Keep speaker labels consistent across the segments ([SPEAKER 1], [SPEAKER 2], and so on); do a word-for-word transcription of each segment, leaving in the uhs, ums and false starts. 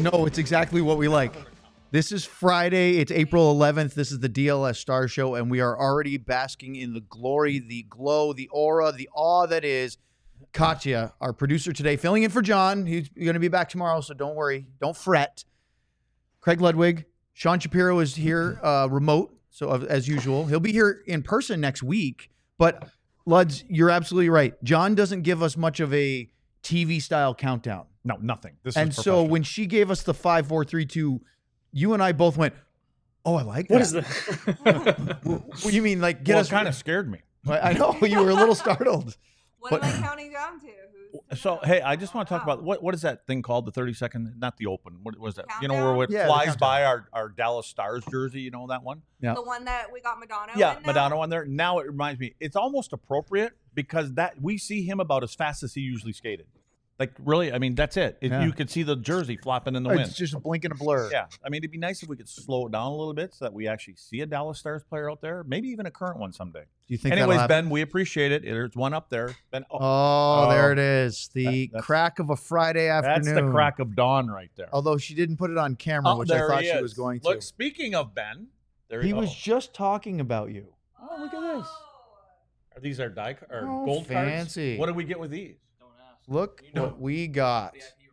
[SPEAKER 1] No, it's exactly what we like. This is Friday. It's April eleventh. This is the D L S Star Show, and we are already basking in the glory, the glow, the aura, the awe that is Katya, our producer today, filling in for John. He's going to be back tomorrow, so don't worry. Don't fret. Craig Ludwig. Sean Shapiro is here uh, remote, so as usual. He'll be here in person next week, but Luds, you're absolutely right. John doesn't give us much of a T V-style countdown.
[SPEAKER 2] No, nothing. This
[SPEAKER 1] and
[SPEAKER 2] is
[SPEAKER 1] so when she gave us the five, four, three, two, you and I both went, oh, I like that.
[SPEAKER 3] What is that?
[SPEAKER 1] What you mean, like, get
[SPEAKER 2] well,
[SPEAKER 1] us?
[SPEAKER 2] It kind of scared me.
[SPEAKER 1] I know, you were a little startled.
[SPEAKER 4] What
[SPEAKER 1] But-
[SPEAKER 4] am I counting down to? Who's
[SPEAKER 2] So, hey, I just want to talk about what what is that thing called? The thirty second, not the open. What was that? You know,
[SPEAKER 4] Countdown?
[SPEAKER 2] where it
[SPEAKER 1] Yeah, the
[SPEAKER 2] flies
[SPEAKER 1] countdown.
[SPEAKER 2] by our, our Dallas Stars jersey. You know that one?
[SPEAKER 1] Yeah.
[SPEAKER 4] the one that we got Madonna
[SPEAKER 2] Yeah,
[SPEAKER 4] in now?
[SPEAKER 2] Madonna on there. Now it reminds me, it's almost appropriate because that we see him about as fast as he usually skated. Like, really, I mean, that's it. It-
[SPEAKER 1] Yeah.
[SPEAKER 2] You could see the jersey flopping in the
[SPEAKER 1] It's
[SPEAKER 2] wind.
[SPEAKER 1] just a blink and a blur.
[SPEAKER 2] Yeah, I mean, it'd be nice if we could slow it down a little bit so that we actually see a Dallas Stars player out there, maybe even a current one someday.
[SPEAKER 1] Do you think that'll
[SPEAKER 2] Anyways,
[SPEAKER 1] happen?
[SPEAKER 2] Ben, we appreciate it. There's one up there. Ben, oh,
[SPEAKER 1] Oh, there
[SPEAKER 2] Oh.
[SPEAKER 1] it is. The
[SPEAKER 2] That- that's-
[SPEAKER 1] crack of a Friday afternoon.
[SPEAKER 2] that's the crack of dawn right there.
[SPEAKER 1] Although she didn't put it on camera,
[SPEAKER 2] Oh,
[SPEAKER 1] which I
[SPEAKER 2] there
[SPEAKER 1] thought
[SPEAKER 2] he
[SPEAKER 1] she
[SPEAKER 2] is.
[SPEAKER 1] was going
[SPEAKER 2] Look,
[SPEAKER 1] to.
[SPEAKER 2] speaking of Ben, there
[SPEAKER 1] He
[SPEAKER 2] he
[SPEAKER 1] was
[SPEAKER 2] oh.
[SPEAKER 1] just talking about you.
[SPEAKER 2] Oh, look at this. Are these our die or
[SPEAKER 1] Oh,
[SPEAKER 2] gold
[SPEAKER 1] fancy.
[SPEAKER 2] cards? What do we get with these?
[SPEAKER 1] Look
[SPEAKER 2] know.
[SPEAKER 1] what we got.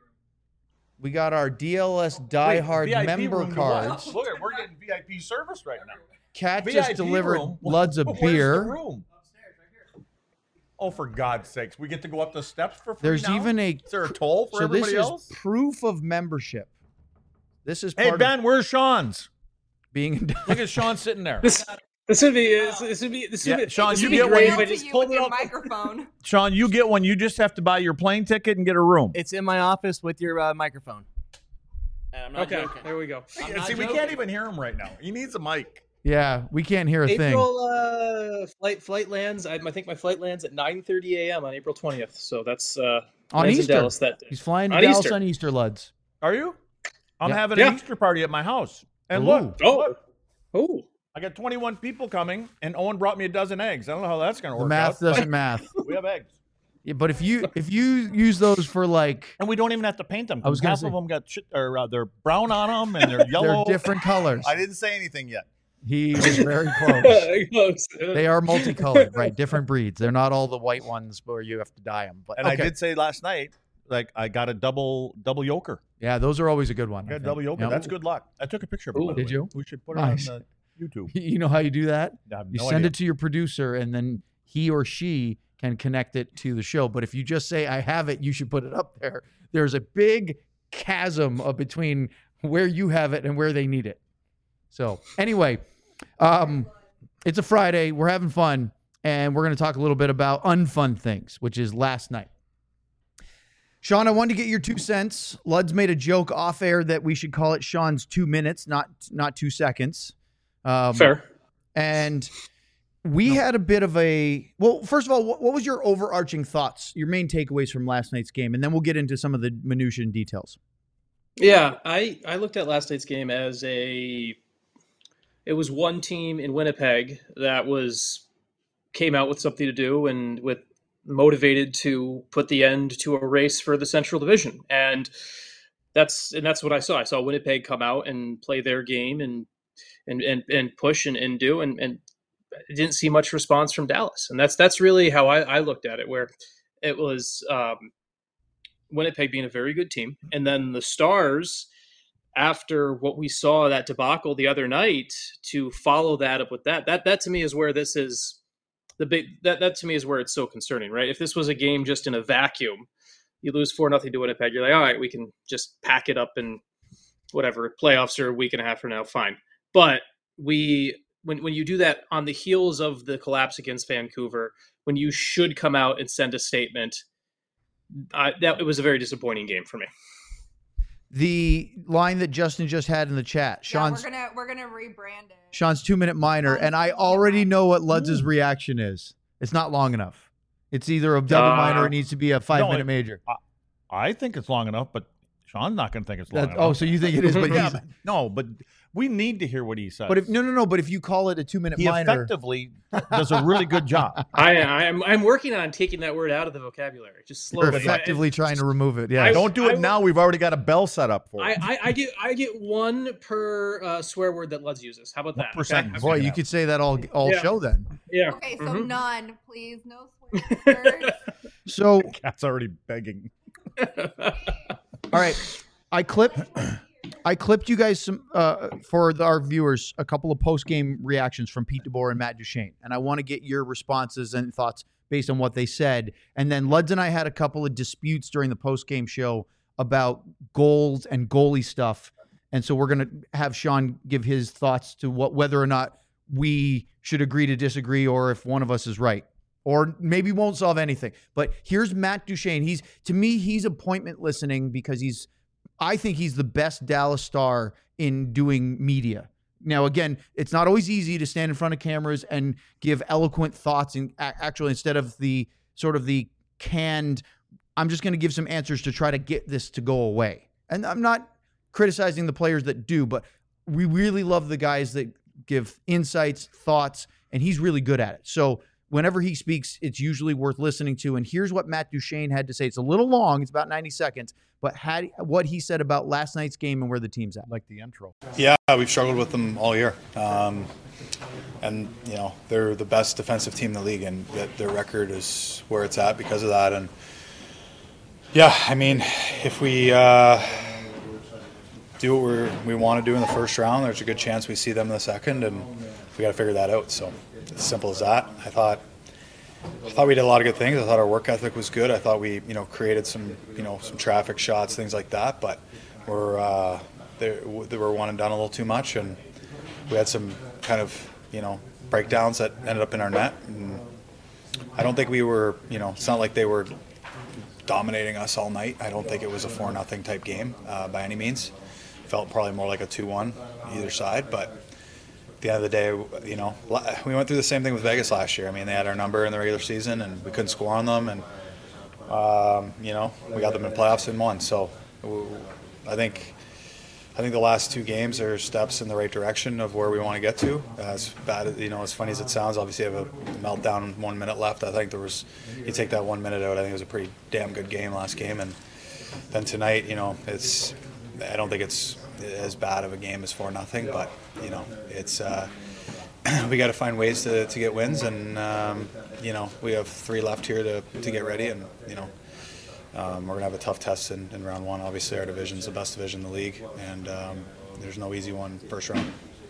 [SPEAKER 1] We got our D L S diehard
[SPEAKER 2] Wait, V I P
[SPEAKER 1] member
[SPEAKER 2] room to what?
[SPEAKER 1] cards.
[SPEAKER 2] Look, at we're getting V I P service right now.
[SPEAKER 1] Cat
[SPEAKER 2] V I P
[SPEAKER 1] just delivered
[SPEAKER 2] room?
[SPEAKER 1] Luds a
[SPEAKER 2] Where's the
[SPEAKER 1] beer.
[SPEAKER 2] room? Oh, for God's sakes! We get to go up the steps for free
[SPEAKER 1] There's
[SPEAKER 2] now?
[SPEAKER 1] even a
[SPEAKER 2] Is there a toll for
[SPEAKER 1] so this
[SPEAKER 2] everybody
[SPEAKER 1] is
[SPEAKER 2] else?
[SPEAKER 1] proof of membership. This is
[SPEAKER 2] Hey
[SPEAKER 1] part
[SPEAKER 2] Ben,
[SPEAKER 1] of
[SPEAKER 2] where's Sean's?
[SPEAKER 1] being
[SPEAKER 2] Look at Sean sitting there.
[SPEAKER 3] This this would be this, this would be this would
[SPEAKER 2] Yeah,
[SPEAKER 3] be
[SPEAKER 2] Sean,
[SPEAKER 3] this
[SPEAKER 2] you
[SPEAKER 3] would be
[SPEAKER 2] get
[SPEAKER 3] great
[SPEAKER 2] one.
[SPEAKER 3] if I
[SPEAKER 4] Hand to
[SPEAKER 3] just
[SPEAKER 4] you
[SPEAKER 3] pulled
[SPEAKER 4] with
[SPEAKER 3] it
[SPEAKER 4] your
[SPEAKER 3] up.
[SPEAKER 4] microphone.
[SPEAKER 2] Sean, you get one. You just have to buy your plane ticket and get a room.
[SPEAKER 5] It's in my office with your uh, microphone. I'm not
[SPEAKER 3] Okay,
[SPEAKER 5] joking.
[SPEAKER 3] there we go.
[SPEAKER 5] I'm
[SPEAKER 2] Yeah,
[SPEAKER 5] not
[SPEAKER 2] see, we
[SPEAKER 5] joking.
[SPEAKER 2] can't even hear him right now. He needs a mic.
[SPEAKER 1] Yeah, we can't hear a thing.
[SPEAKER 3] April uh, flight flight lands. I, I think my flight lands at nine thirty a.m. on April twentieth. So that's uh,
[SPEAKER 1] On
[SPEAKER 3] lands in
[SPEAKER 1] Easter.
[SPEAKER 3] Dallas that day.
[SPEAKER 1] He's flying to
[SPEAKER 3] On
[SPEAKER 1] Dallas
[SPEAKER 3] Easter.
[SPEAKER 1] on Easter, Luds.
[SPEAKER 2] Are you? I'm
[SPEAKER 1] Yeah.
[SPEAKER 2] having
[SPEAKER 3] Yeah.
[SPEAKER 2] an Easter party at my house. And
[SPEAKER 1] Ooh.
[SPEAKER 2] look,
[SPEAKER 3] Oh,
[SPEAKER 2] look,
[SPEAKER 3] oh,
[SPEAKER 2] I got twenty-one people coming, and Owen brought me a dozen eggs. I don't know how that's going to
[SPEAKER 1] The
[SPEAKER 2] work
[SPEAKER 1] math
[SPEAKER 2] out.
[SPEAKER 1] doesn't math.
[SPEAKER 2] but We have eggs.
[SPEAKER 1] Yeah, but if you if you use those for like
[SPEAKER 2] And we don't even have to paint them.
[SPEAKER 1] I was gonna
[SPEAKER 2] half
[SPEAKER 1] say-
[SPEAKER 2] of them got shit, or uh, they're brown on them, and they're yellow.
[SPEAKER 1] they're different colors.
[SPEAKER 2] I didn't say anything yet.
[SPEAKER 1] He was very close.
[SPEAKER 3] Close.
[SPEAKER 1] They are multicolored, right? Different breeds. They're not all the white ones where you have to dye them. But
[SPEAKER 2] And
[SPEAKER 1] okay.
[SPEAKER 2] I did say last night, like I got a double double yoker.
[SPEAKER 1] Yeah, those are always a good one.
[SPEAKER 2] I
[SPEAKER 1] I
[SPEAKER 2] got a
[SPEAKER 1] think.
[SPEAKER 2] double yoker.
[SPEAKER 1] Yep.
[SPEAKER 2] That's good luck. I took a picture of it.
[SPEAKER 3] Ooh.
[SPEAKER 2] by the
[SPEAKER 1] Did
[SPEAKER 2] way.
[SPEAKER 1] you?
[SPEAKER 2] We should put
[SPEAKER 1] Nice.
[SPEAKER 2] it on uh, YouTube.
[SPEAKER 1] You know how you do that?
[SPEAKER 2] I have
[SPEAKER 1] You
[SPEAKER 2] no
[SPEAKER 1] send
[SPEAKER 2] idea.
[SPEAKER 1] it to your producer, and then he or she can connect it to the show. But if you just say, I have it, you should put it up there. There's a big chasm of between where you have it and where they need it. So anyway, um, it's a Friday. We're having fun, and we're going to talk a little bit about unfun things, which is last night. Sean, I wanted to get your two cents. Luds made a joke off air that we should call it Sean's two minutes, not not two seconds. Um,
[SPEAKER 3] Fair.
[SPEAKER 1] And we had a bit of a well. First of all, what, what was your overarching thoughts, your main takeaways from last night's game, and then we'll get into some of the minutiae and details.
[SPEAKER 3] Yeah, I I looked at last night's game as a. It was one team in Winnipeg that was came out with something to do and with motivated to put the end to a race for the Central Division, and that's and that's what I saw. I saw Winnipeg come out and play their game and and and, and push and, and do and and didn't see much response from Dallas, and that's that's really how I, I looked at it. Where it was um, Winnipeg being a very good team, and then the Stars, after what we saw that debacle the other night, to follow that up with that that that to me is where this is. The big that that to me is where it's so concerning, right? If this was a game just in a vacuum, you lose four nothing to Winnipeg, you're like, all right, we can just pack it up and whatever. Playoffs are a week and a half from now, fine. But we when when you do that on the heels of the collapse against Vancouver, when you should come out and send a statement, I, that it was a very disappointing game for me.
[SPEAKER 1] The line that Justin just had in the chat,
[SPEAKER 4] Yeah,
[SPEAKER 1] Sean's
[SPEAKER 4] we're gonna we're gonna rebrand it.
[SPEAKER 1] Sean's two minute minor, and I already know what Luds' reaction is. It's not long enough. It's either a double
[SPEAKER 3] Uh,
[SPEAKER 1] minor or it needs to be a five
[SPEAKER 2] no,
[SPEAKER 1] minute
[SPEAKER 2] it-
[SPEAKER 1] major.
[SPEAKER 2] I think it's long enough, but Sean's not going to think it's long
[SPEAKER 1] That-
[SPEAKER 2] enough.
[SPEAKER 1] oh, so you think it is, but
[SPEAKER 2] yeah,
[SPEAKER 1] he's,
[SPEAKER 2] but, no, but We need to hear what he says.
[SPEAKER 1] But if no, no, no. But if you call it a two-minute
[SPEAKER 2] he
[SPEAKER 1] minor,
[SPEAKER 2] effectively does a really good job.
[SPEAKER 3] I, I'm I'm working on taking that word out of the vocabulary, just
[SPEAKER 1] you're
[SPEAKER 3] slowly.
[SPEAKER 1] effectively
[SPEAKER 3] I,
[SPEAKER 1] trying to remove it. Yeah.
[SPEAKER 3] I-
[SPEAKER 2] Don't do it
[SPEAKER 3] I-
[SPEAKER 2] now. We've already got a bell set up for
[SPEAKER 3] I,
[SPEAKER 2] it.
[SPEAKER 3] I, I get I get one per uh, swear word that Luds uses. How about
[SPEAKER 2] What
[SPEAKER 3] that?
[SPEAKER 2] percent?
[SPEAKER 3] Okay?
[SPEAKER 1] Boy, you could say that all all
[SPEAKER 3] Yeah.
[SPEAKER 1] show then.
[SPEAKER 3] Yeah.
[SPEAKER 4] Okay, so
[SPEAKER 3] Mhm.
[SPEAKER 4] none, please. No swear words.
[SPEAKER 1] So,
[SPEAKER 2] Cat's already begging.
[SPEAKER 1] all right, I clipped, I clipped you guys some uh, for the, our viewers a couple of post game reactions from Pete DeBoer and Matt Duchene, and I want to get your responses and thoughts based on what they said. And then Luds and I had a couple of disputes during the post game show about goals and goalie stuff, and so we're gonna have Sean give his thoughts to what whether or not we should agree to disagree or if one of us is right. Or maybe won't solve anything. But here's Matt Duchene. He's to me, he's appointment listening because he's I think he's the best Dallas Star in doing media. Now, again, it's not always easy to stand in front of cameras and give eloquent thoughts and actually instead of the sort of the canned, I'm just going to give some answers to try to get this to go away. And I'm not criticizing the players that do, but we really love the guys that give insights, thoughts, and he's really good at it. So whenever he speaks, it's usually worth listening to. And here's what Matt Duchene had to say. It's a little long. It's about ninety seconds. But had what he said about last night's game and where the team's at.
[SPEAKER 2] Like the intro.
[SPEAKER 6] Yeah, we've struggled with them all year. Um, and, you know, they're the best defensive team in the league, and that their record is where it's at because of that. And, yeah, I mean, if we uh, do what we're, we want to do in the first round, there's a good chance we see them in the second, and we got to figure that out. So, as simple as that. I thought I thought we did a lot of good things. I thought our work ethic was good. I thought we, you know, created some, you know, some traffic shots, things like that. But we're uh, they, they were one and done a little too much, and we had some kind of, you know, breakdowns that ended up in our net. And I don't think we were, you know, it's not like they were dominating us all night. I don't think it was a four nothing type game uh, by any means. Felt probably more like a two one either side, but. At the end of the day, you know, we went through the same thing with Vegas last year. I mean, they had our number in the regular season, and we couldn't score on them, and um, you know, we got them in playoffs and won. So, I think, I think the last two games are steps in the right direction of where we want to get to. As bad, you know, as funny as it sounds, obviously, you have a meltdown, one minute left. I think there was, you take that one minute out. I think it was a pretty damn good game last game, and then tonight, you know, it's, I don't think it's as bad of a game as four nothing, but you know, it's uh, we got to find ways to, to get wins, and um, you know, we have three left here to, to get ready, and you know, um, we're gonna have a tough test in, in round one. Obviously, our division's the best division in the league, and um, there's no easy one first round.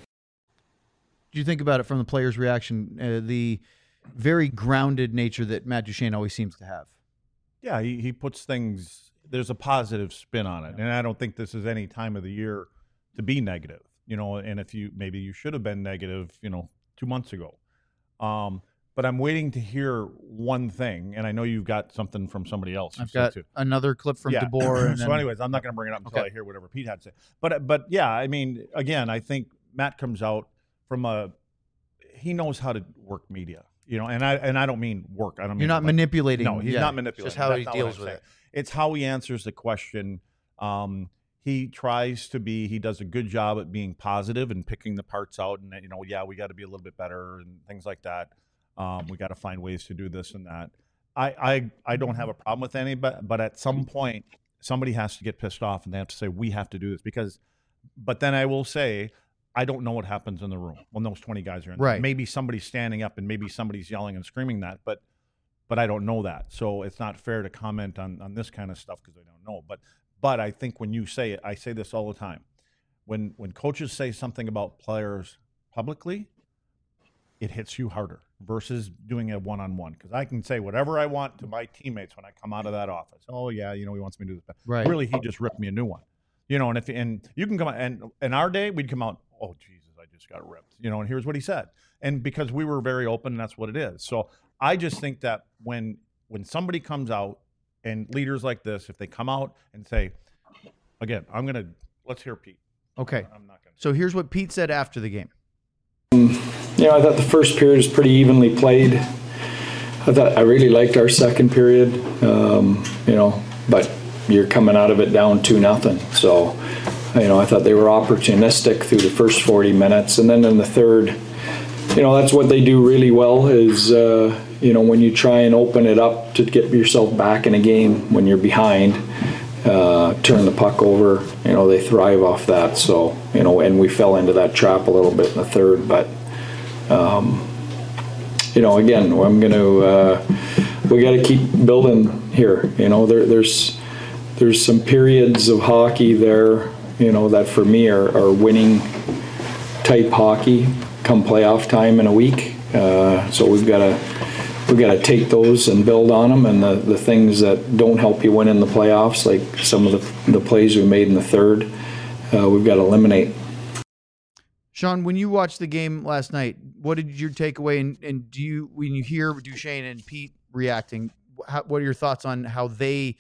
[SPEAKER 1] Do you think about it from the players' reaction, uh, the very grounded nature that Matt Duchene always seems to have?
[SPEAKER 2] Yeah, he, he puts things. There's a positive spin on it, and I don't think this is any time of the year to be negative, you know. And if you maybe you should have been negative, you know, two months ago. Um, but I'm waiting to hear one thing, and I know you've got something from somebody else.
[SPEAKER 1] I've got
[SPEAKER 2] too.
[SPEAKER 1] another clip from
[SPEAKER 2] yeah.
[SPEAKER 1] DeBoer. And
[SPEAKER 2] so,
[SPEAKER 1] then,
[SPEAKER 2] anyways, I'm not going to bring it up until
[SPEAKER 1] Okay.
[SPEAKER 2] I hear whatever Pete had to say. But but yeah, I mean, again, I think Matt comes out from a he knows how to work media, you know, and I and I don't mean work. I don't mean
[SPEAKER 1] you're not
[SPEAKER 2] like,
[SPEAKER 1] manipulating.
[SPEAKER 2] No, he's
[SPEAKER 1] yeah,
[SPEAKER 2] not manipulating.
[SPEAKER 1] Just how
[SPEAKER 2] That's
[SPEAKER 1] he
[SPEAKER 2] not what
[SPEAKER 1] deals
[SPEAKER 2] I'm
[SPEAKER 1] with
[SPEAKER 2] saying.
[SPEAKER 1] it.
[SPEAKER 2] It's how he answers the question. Um, he tries to be. He does a good job at being positive and picking the parts out. And you know, yeah, we got to be a little bit better and things like that. Um, we got to find ways to do this and that. I, I I don't have a problem with any, but but at some point, somebody has to get pissed off and they have to say we have to do this because. But then I will say. I don't know what happens in the room when those twenty guys are in there.
[SPEAKER 1] Right.
[SPEAKER 2] Maybe somebody's standing up and maybe somebody's yelling and screaming that, but but I don't know that. So it's not fair to comment on, on this kind of stuff because I don't know. But but I think when you say it, I say this all the time. When when coaches say something about players publicly, it hits you harder versus doing it one-on-one. Because I can say whatever I want to my teammates when I come out of that office. Oh, yeah, you know, he wants me to do this.
[SPEAKER 1] Right.
[SPEAKER 2] Really, he just ripped me a new one. You know, and if and you can come out, and in our day, we'd come out, oh, Jesus, I just got ripped. You know, and here's what he said. And because we were very open, and that's what it is. So I just think that when when somebody comes out, and leaders like this, if they come out and say, again, I'm going to, let's hear Pete.
[SPEAKER 1] Okay.
[SPEAKER 2] I'm not going to.
[SPEAKER 1] So here's what Pete said after the game.
[SPEAKER 7] You know, I thought the first period was pretty evenly played. I thought I really liked our second period, um, you know, but you're coming out of it down two nothing. So You know, I thought they were opportunistic through the first forty minutes, and then in the third, you know, that's what they do really well is, uh, you know, when you try and open it up to get yourself back in a game when you're behind, uh, turn the puck over, you know, they thrive off that. So, you know, and we fell into that trap a little bit in the third, but, um, you know, again, I'm going to, uh, we got to keep building here. You know, there, there's, there's some periods of hockey there, you know, that for me are, are winning type hockey come playoff time in a week. Uh, so we've got to we've got to take those and build on them. And the, the things that don't help you win in the playoffs, like some of the, the plays we made in the third, uh, we've got to eliminate.
[SPEAKER 1] Sean, when you watched the game last night, what did your takeaway? And, and do you, when you hear Duchesne and Pete reacting, how, what are your thoughts on how they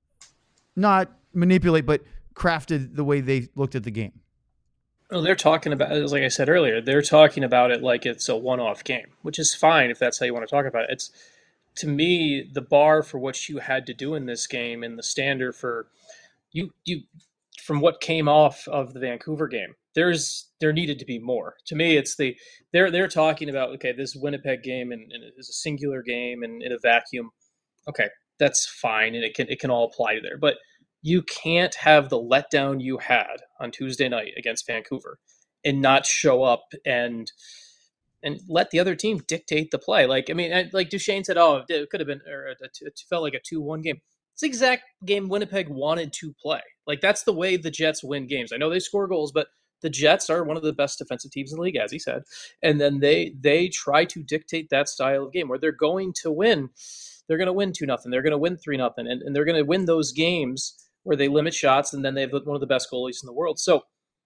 [SPEAKER 1] not manipulate, but crafted the way they looked at the game?
[SPEAKER 3] Well, they're talking about, like I said earlier, they're talking about it like it's a one-off game, which is fine if that's how you want to talk about it. It's, to me, the bar for what you had to do in this game and the standard for you, you from what came off of the Vancouver game, there's there needed to be more. To me, it's the they're they're talking about, okay, this Winnipeg game and, and it is a singular game and in a vacuum. Okay, that's fine, and it can it can all apply to there, but you can't have the letdown you had on Tuesday night against Vancouver and not show up and and let the other team dictate the play. Like, I mean, like Duchesne said, oh, it could have been, or it felt like a two one game. It's the exact game Winnipeg wanted to play. Like, that's the way the Jets win games. I know they score goals, but the Jets are one of the best defensive teams in the league, as he said. And then they they try to dictate that style of game where they're going to win. They're going to win two nothing. They're going to win three nothing. And, and they're going to win those games where they limit shots, and then they have one of the best goalies in the world. So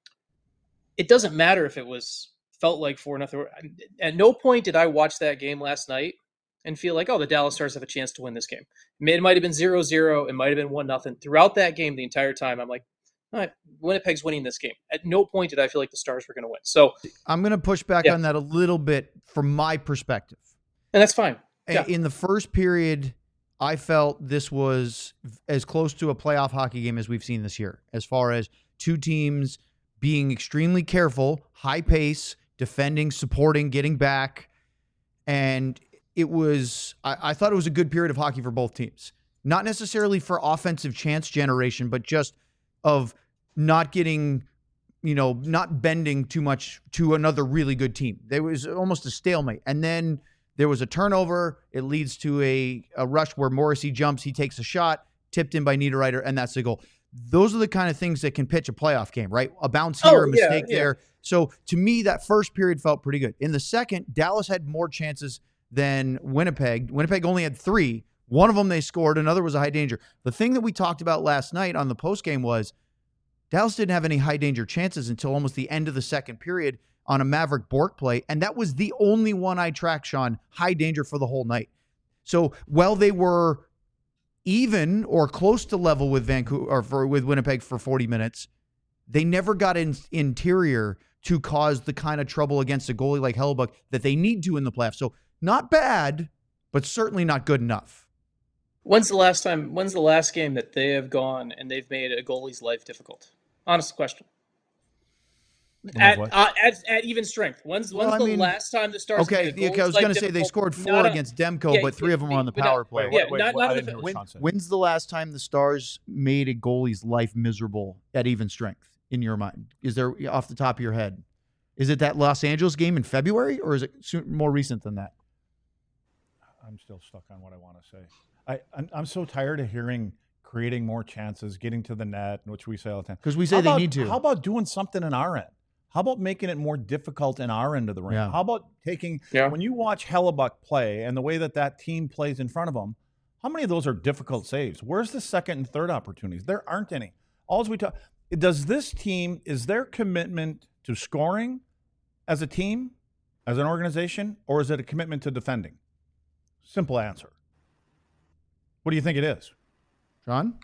[SPEAKER 3] it doesn't matter if it was felt like four nothing. At no point did I watch that game last night and feel like, oh, the Dallas Stars have a chance to win this game. It might have been zero zero. It might have been one nothing. Throughout that game, the entire time, I'm like, all right, Winnipeg's winning this game. At no point did I feel like the Stars were going to win. So
[SPEAKER 1] I'm going to push back yeah. on that a little bit from my perspective.
[SPEAKER 3] And that's fine. Yeah.
[SPEAKER 1] In the first period, I felt this was as close to a playoff hockey game as we've seen this year, as far as two teams being extremely careful, high pace, defending, supporting, getting back. And it was, I, I thought it was a good period of hockey for both teams. Not necessarily for offensive chance generation, but just of not getting, you know, not bending too much to another really good team. There was almost a stalemate. And then there was a turnover. It leads to a, a rush where Morrissey jumps. He takes a shot, tipped in by Niederreiter, and that's the goal. Those are the kind of things that can pitch a playoff game, right? A bounce here,
[SPEAKER 3] oh,
[SPEAKER 1] a mistake
[SPEAKER 3] yeah, yeah.
[SPEAKER 1] there. So to me, that first period felt pretty good. In the second, Dallas had more chances than Winnipeg. Winnipeg only had three. One of them they scored. Another was a high danger. The thing that we talked about last night on the postgame was Dallas didn't have any high danger chances until almost the end of the second period on a Maverick Bourque play, and that was the only one I tracked, Sean, high danger for the whole night. So while they were even or close to level with Vancouver or for, with Winnipeg for forty minutes, they never got in interior to cause the kind of trouble against a goalie like Hellebuyck that they need to in the playoffs. So not bad, but certainly not good enough.
[SPEAKER 3] When's the last time, when's the last game that they have gone and they've made a goalie's life difficult? Honest question. At, uh, at at even strength. When's when's well, the mean, last time the Stars?
[SPEAKER 1] Okay, yeah, I was going to say they scored four against Demko, yeah, but three of them were on the power
[SPEAKER 3] not,
[SPEAKER 1] play.
[SPEAKER 3] Yeah,
[SPEAKER 2] wait,
[SPEAKER 3] not,
[SPEAKER 2] wait,
[SPEAKER 3] not
[SPEAKER 2] the,
[SPEAKER 1] when, when's the last time the Stars made a goalie's life miserable at even strength in your mind? Is there off the top of your head? Is it that Los Angeles game in February, or is it more recent than that?
[SPEAKER 2] I'm still stuck on what I want to say. I I'm, I'm so tired of hearing creating more chances, getting to the net, which we say all the time.
[SPEAKER 1] Because we say
[SPEAKER 2] how
[SPEAKER 1] they
[SPEAKER 2] about,
[SPEAKER 1] need to.
[SPEAKER 2] How about doing something in our end? How about making it more difficult in our end of the ring?
[SPEAKER 1] Yeah.
[SPEAKER 2] How about taking,
[SPEAKER 3] yeah.
[SPEAKER 2] when you watch Hellebuyck play and the way that that team plays in front of them, how many of those are difficult saves? Where's the second and third opportunities? There aren't any. All we talk, does this team, is their commitment to scoring as a team, as an organization, or is it a commitment to defending? Simple answer. What do you think it is?
[SPEAKER 1] John?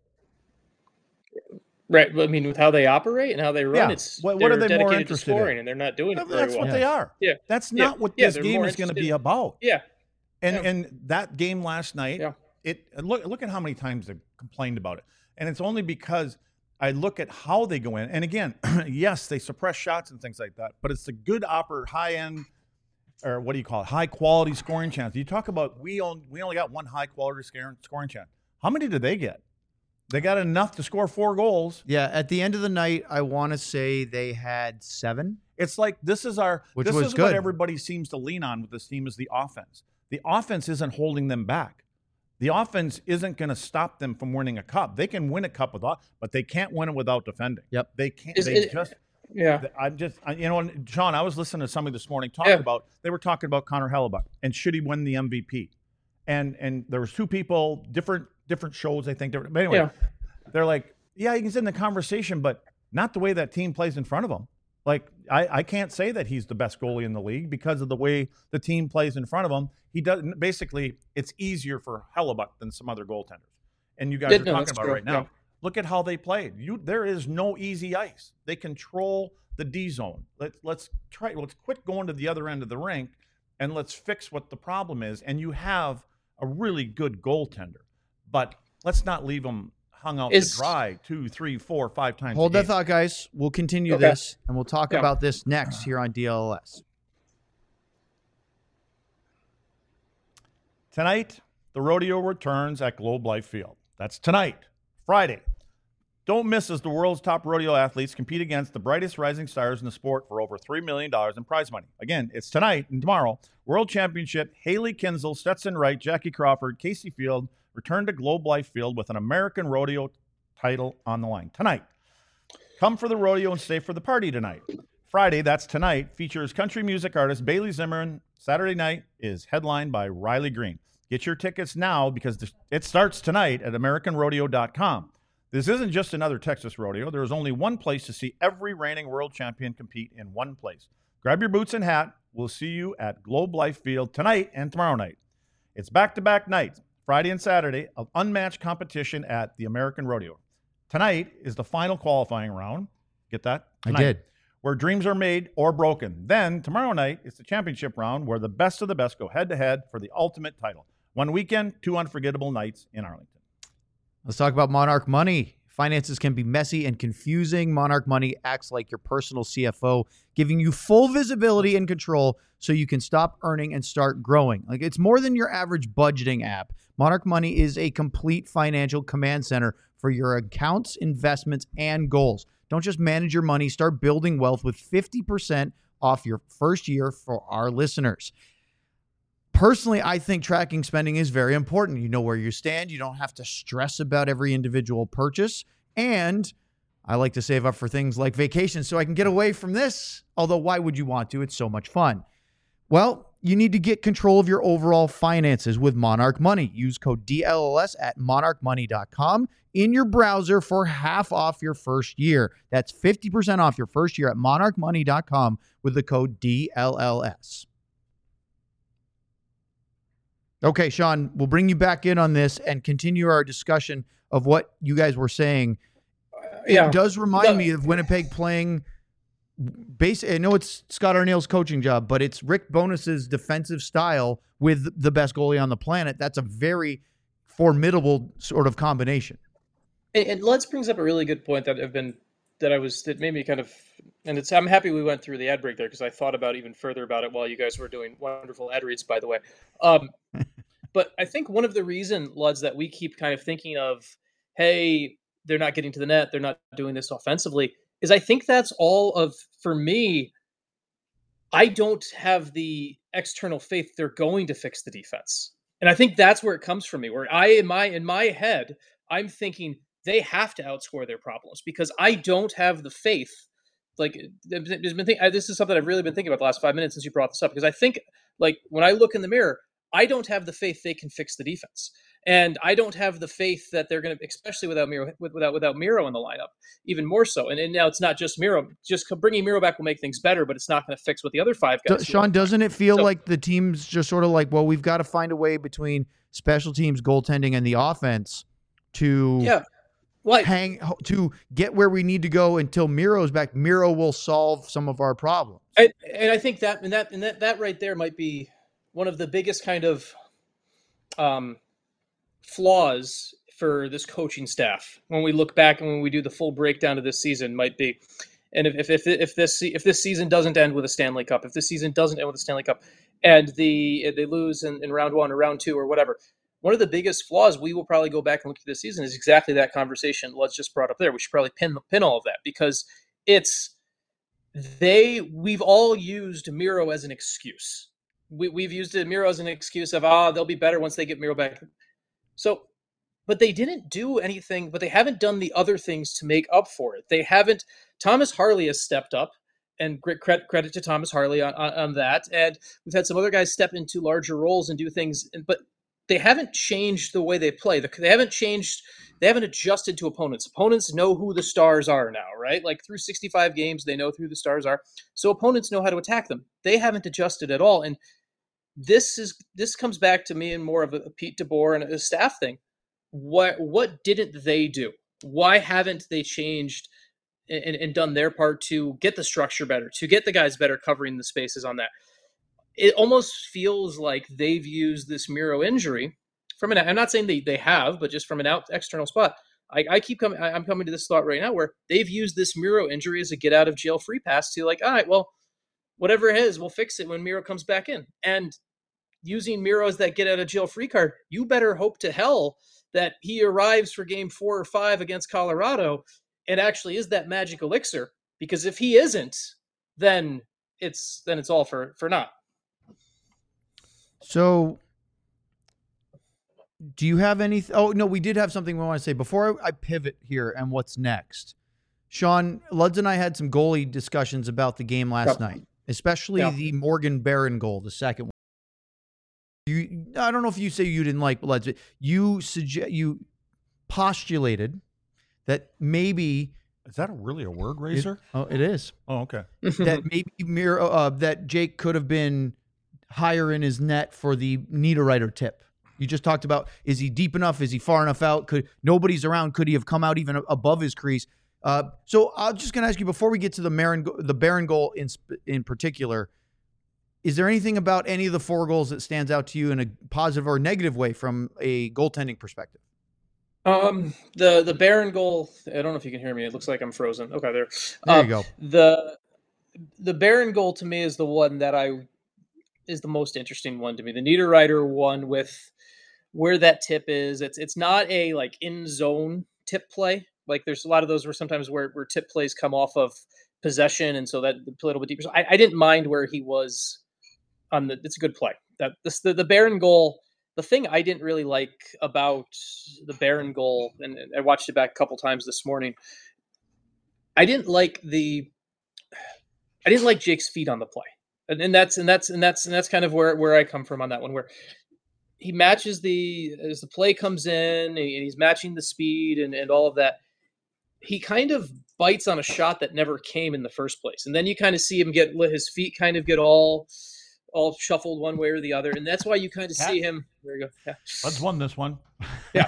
[SPEAKER 3] Right, I mean, with how they operate and how they run,
[SPEAKER 2] yeah.
[SPEAKER 3] it's
[SPEAKER 2] what, what are they
[SPEAKER 3] dedicated
[SPEAKER 2] more interested
[SPEAKER 3] to scoring,
[SPEAKER 2] in?
[SPEAKER 3] and they're not doing it very
[SPEAKER 2] That's
[SPEAKER 3] well.
[SPEAKER 2] what
[SPEAKER 1] yeah.
[SPEAKER 2] they are.
[SPEAKER 3] Yeah,
[SPEAKER 2] that's
[SPEAKER 3] yeah.
[SPEAKER 2] not what
[SPEAKER 3] yeah,
[SPEAKER 2] this
[SPEAKER 3] they're
[SPEAKER 2] game
[SPEAKER 3] more
[SPEAKER 2] is going to be
[SPEAKER 3] interested-
[SPEAKER 2] about.
[SPEAKER 3] Yeah,
[SPEAKER 2] and
[SPEAKER 3] yeah.
[SPEAKER 2] and that game last night,
[SPEAKER 3] Yeah.
[SPEAKER 2] it look look at how many times they complained about it, and it's only because I look at how they go in, and again, yes, they suppress shots and things like that, but it's a good upper high end, or what do you call it, high quality scoring chance. You talk about we only we only got one high quality scoring scoring chance. How many did they get? They got enough to score four goals.
[SPEAKER 1] Yeah, at the end of the night, I want to say they had seven.
[SPEAKER 2] It's like this is our
[SPEAKER 1] Which
[SPEAKER 2] this
[SPEAKER 1] was
[SPEAKER 2] is
[SPEAKER 1] good.
[SPEAKER 2] what everybody seems to lean on with this team is the offense. The offense isn't holding them back. The offense isn't going to stop them from winning a cup. They can win a cup without, but they can't win it without defending.
[SPEAKER 1] Yep.
[SPEAKER 2] They can't.
[SPEAKER 3] Is
[SPEAKER 2] they
[SPEAKER 3] it-
[SPEAKER 2] just.
[SPEAKER 3] Yeah.
[SPEAKER 2] I'm just, I, you know, and Sean, I was listening to somebody this morning talk
[SPEAKER 3] Yeah.
[SPEAKER 2] about. They were talking about Connor Hellebuck and should he win the M V P, and and there was two people, different different shows. I think. Different, but anyway,
[SPEAKER 3] Yeah.
[SPEAKER 2] they're like, yeah, he's in the conversation, but not the way that team plays in front of him. Like, I, I can't say that he's the best goalie in the league because of the way the team plays in front of him. He doesn't. Basically, it's easier for Hellebuck than some other goaltenders. And you guys
[SPEAKER 3] Yeah,
[SPEAKER 2] are
[SPEAKER 3] no,
[SPEAKER 2] talking
[SPEAKER 3] that's
[SPEAKER 2] about
[SPEAKER 3] true.
[SPEAKER 2] it right now.
[SPEAKER 3] Yeah.
[SPEAKER 2] Look at how they played. You, there is no easy ice. They control the D zone. Let's let's try. Let's quit going to the other end of the rink, and let's fix what the problem is. And you have a really good goaltender, but let's not leave them hung out
[SPEAKER 3] Is-
[SPEAKER 2] to dry two, three, four, five times.
[SPEAKER 1] Hold
[SPEAKER 2] a
[SPEAKER 1] that
[SPEAKER 2] game.
[SPEAKER 1] thought, guys. We'll continue
[SPEAKER 3] Okay.
[SPEAKER 1] this, and we'll talk
[SPEAKER 3] Yeah.
[SPEAKER 1] about this next here on D L L S.
[SPEAKER 2] Tonight, the rodeo returns at Globe Life Field. That's tonight, Friday. Don't miss as the world's top rodeo athletes compete against the brightest rising stars in the sport for over three million dollars in prize money. Again, it's tonight and tomorrow. World Championship, Haley Kinsel, Stetson Wright, Jackie Crawford, Casey Field return to Globe Life Field with an American rodeo title on the line. Tonight, come for the rodeo and stay for the party tonight. Friday, that's tonight, features country music artist Bailey Zimmerman. Saturday night is headlined by Riley Green. Get your tickets now because it starts tonight at American Rodeo dot com. This isn't just another Texas rodeo. There is only one place to see every reigning world champion compete in one place. Grab your boots and hat. We'll see you at Globe Life Field tonight and tomorrow night. It's back-to-back nights, Friday and Saturday, of unmatched competition at the American Rodeo. Tonight is the final qualifying round. Get that? Tonight,
[SPEAKER 1] I did.
[SPEAKER 2] Where dreams are made or broken. Then, tomorrow night, is the championship round where the best of the best go head-to-head for the ultimate title. One weekend, two unforgettable nights in Arlington.
[SPEAKER 1] Let's talk about Monarch Money. Finances can be messy and confusing. Monarch Money acts like your personal C F O, giving you full visibility and control so you can stop earning and start growing. Like, it's more than your average budgeting app. Monarch Money is a complete financial command center for your accounts, investments, and goals. Don't just manage your money, start building wealth with fifty percent off your first year for our listeners. Personally, I think tracking spending is very important. You know where you stand. You don't have to stress about every individual purchase. And I like to save up for things like vacations so I can get away from this. Although, why would you want to? It's so much fun. Well, you need to get control of your overall finances with Monarch Money. Use code D L L S at monarch money dot com in your browser for half off your first year. That's fifty percent off your first year at monarch money dot com with the code D L L S. Okay, Sean, we'll bring you back in on this and continue our discussion of what you guys were saying.
[SPEAKER 3] Yeah.
[SPEAKER 1] It does remind
[SPEAKER 3] No.
[SPEAKER 1] me of Winnipeg playing base. I know it's Scott Arneal's coaching job, but it's Rick Bonus's defensive style with the best goalie on the planet. That's a very formidable sort of combination.
[SPEAKER 3] And, and Lutz brings up a really good point that I've been that I was that made me kind of, and it's I'm happy we went through the ad break there because I thought about even further about it while you guys were doing wonderful ad reads, by the way. Um, but I think one of the reason, Lutz, that we keep kind of thinking of, hey, they're not getting to the net, they're not doing this offensively, is I think that's all of, for me, I don't have the external faith they're going to fix the defense. And I think that's where it comes from me, where I, in my in my head, I'm thinking they have to outscore their problems because I don't have the faith. Like, there's been think, this is something I've really been thinking about the last five minutes since you brought this up, because I think, like, when I look in the mirror, I don't have the faith they can fix the defense. And I don't have the faith that they're going to, especially without Miro, without without Miro in the lineup, even more so. And, and now it's not just Miro. Just bringing Miro back will make things better, but it's not going to fix what the other five guys
[SPEAKER 1] Do,
[SPEAKER 3] do.
[SPEAKER 1] Sean, doesn't it feel
[SPEAKER 3] So-
[SPEAKER 1] like the team's just sort of like, well, we've got to find a way between special teams, goaltending, and the offense to
[SPEAKER 3] Yeah. Well, I-
[SPEAKER 1] hang to get where we need to go until Miro's back. Miro will solve some of our problems.
[SPEAKER 3] I, and I think that and that and that that right there might be one of the biggest kind of um, flaws for this coaching staff when we look back and when we do the full breakdown of this season might be, and if if if, if this if this season doesn't end with a Stanley Cup, if this season doesn't end with a Stanley Cup, and the they lose in, in round one or round two or whatever, one of the biggest flaws we will probably go back and look at this season is exactly that conversation let's just brought up there. We should probably pin pin all of that because it's they we've all used Miro as an excuse. We, we've used Miro as an excuse of, ah, they'll be better once they get Miro back. So, but they didn't do anything, but they haven't done the other things to make up for it. They haven't, Thomas Harley has stepped up, and credit, credit to Thomas Harley on, on, on that. And we've had some other guys step into larger roles and do things, but they haven't changed the way they play. They haven't changed, they haven't adjusted to opponents. Opponents know who the stars are now, right? Like through sixty-five games, they know who the stars are. So opponents know how to attack them. They haven't adjusted at all. And this is this comes back to me and more of a Pete DeBoer and a staff thing. What what didn't they do? Why haven't they changed and, and done their part to get the structure better, to get the guys better covering the spaces on that? It almost feels like they've used this Miro injury from an, I'm not saying they, they have, but just from an out external spot. I, I keep coming, I'm coming to this thought right now where they've used this Miro injury as a get out of jail free pass to like, all right, well, whatever it is, we'll fix it when Miro comes back in. And using Miro as that get out of jail free card, you better hope to hell that he arrives for game four or five against Colorado and actually is that magic elixir. Because if he isn't, then it's, then it's all for, for naught.
[SPEAKER 1] So do you have any, oh no, we did have something we want to say before I pivot here and what's next. Sean, Luds and I had some goalie discussions about the game last yep. night, especially yep. the Morgan Barron goal, the second one. You, I don't know if you say you didn't like Luds, but you suggest, you postulated that maybe.
[SPEAKER 2] Is that a, really a word, Razor?
[SPEAKER 1] It, oh, it is.
[SPEAKER 2] Oh, okay.
[SPEAKER 1] That maybe Miro, uh, that Jake could have been higher in his net for the Niederreiter tip. You just talked about, is he deep enough? Is he far enough out? Could nobody's around? Could he have come out even above his crease? Uh, so I'm just going to ask you before we get to the Marin, the Barron goal in in particular. Is there anything about any of the four goals that stands out to you in a positive or negative way from a goaltending perspective?
[SPEAKER 3] Um, the the Barron goal. I don't know if you can hear me. It looks like I'm frozen. Okay, there.
[SPEAKER 1] There
[SPEAKER 3] uh,
[SPEAKER 1] you go.
[SPEAKER 3] The the Barron goal to me is the one that I is the most interesting one to me. The Niederreiter one with where that tip is. It's it's not a like in zone tip play. Like there's a lot of those where sometimes where, where tip plays come off of possession, and so that a little bit deeper. So I, I didn't mind where he was on the. It's a good play. That this the, the Barron goal. The thing I didn't really like about the Barron goal, and I watched it back a couple times this morning. I didn't like the. I didn't like Jake's feet on the play, and, and that's and that's and that's and that's kind of where, where I come from on that one. Where he matches the as the play comes in, and he's matching the speed and, and all of that. He kind of bites on a shot that never came in the first place, and then you kind of see him get his feet kind of get all. all shuffled one way or the other. And that's why you kind of see him. There you go. Yeah.
[SPEAKER 2] Let's won this one.
[SPEAKER 3] Yeah.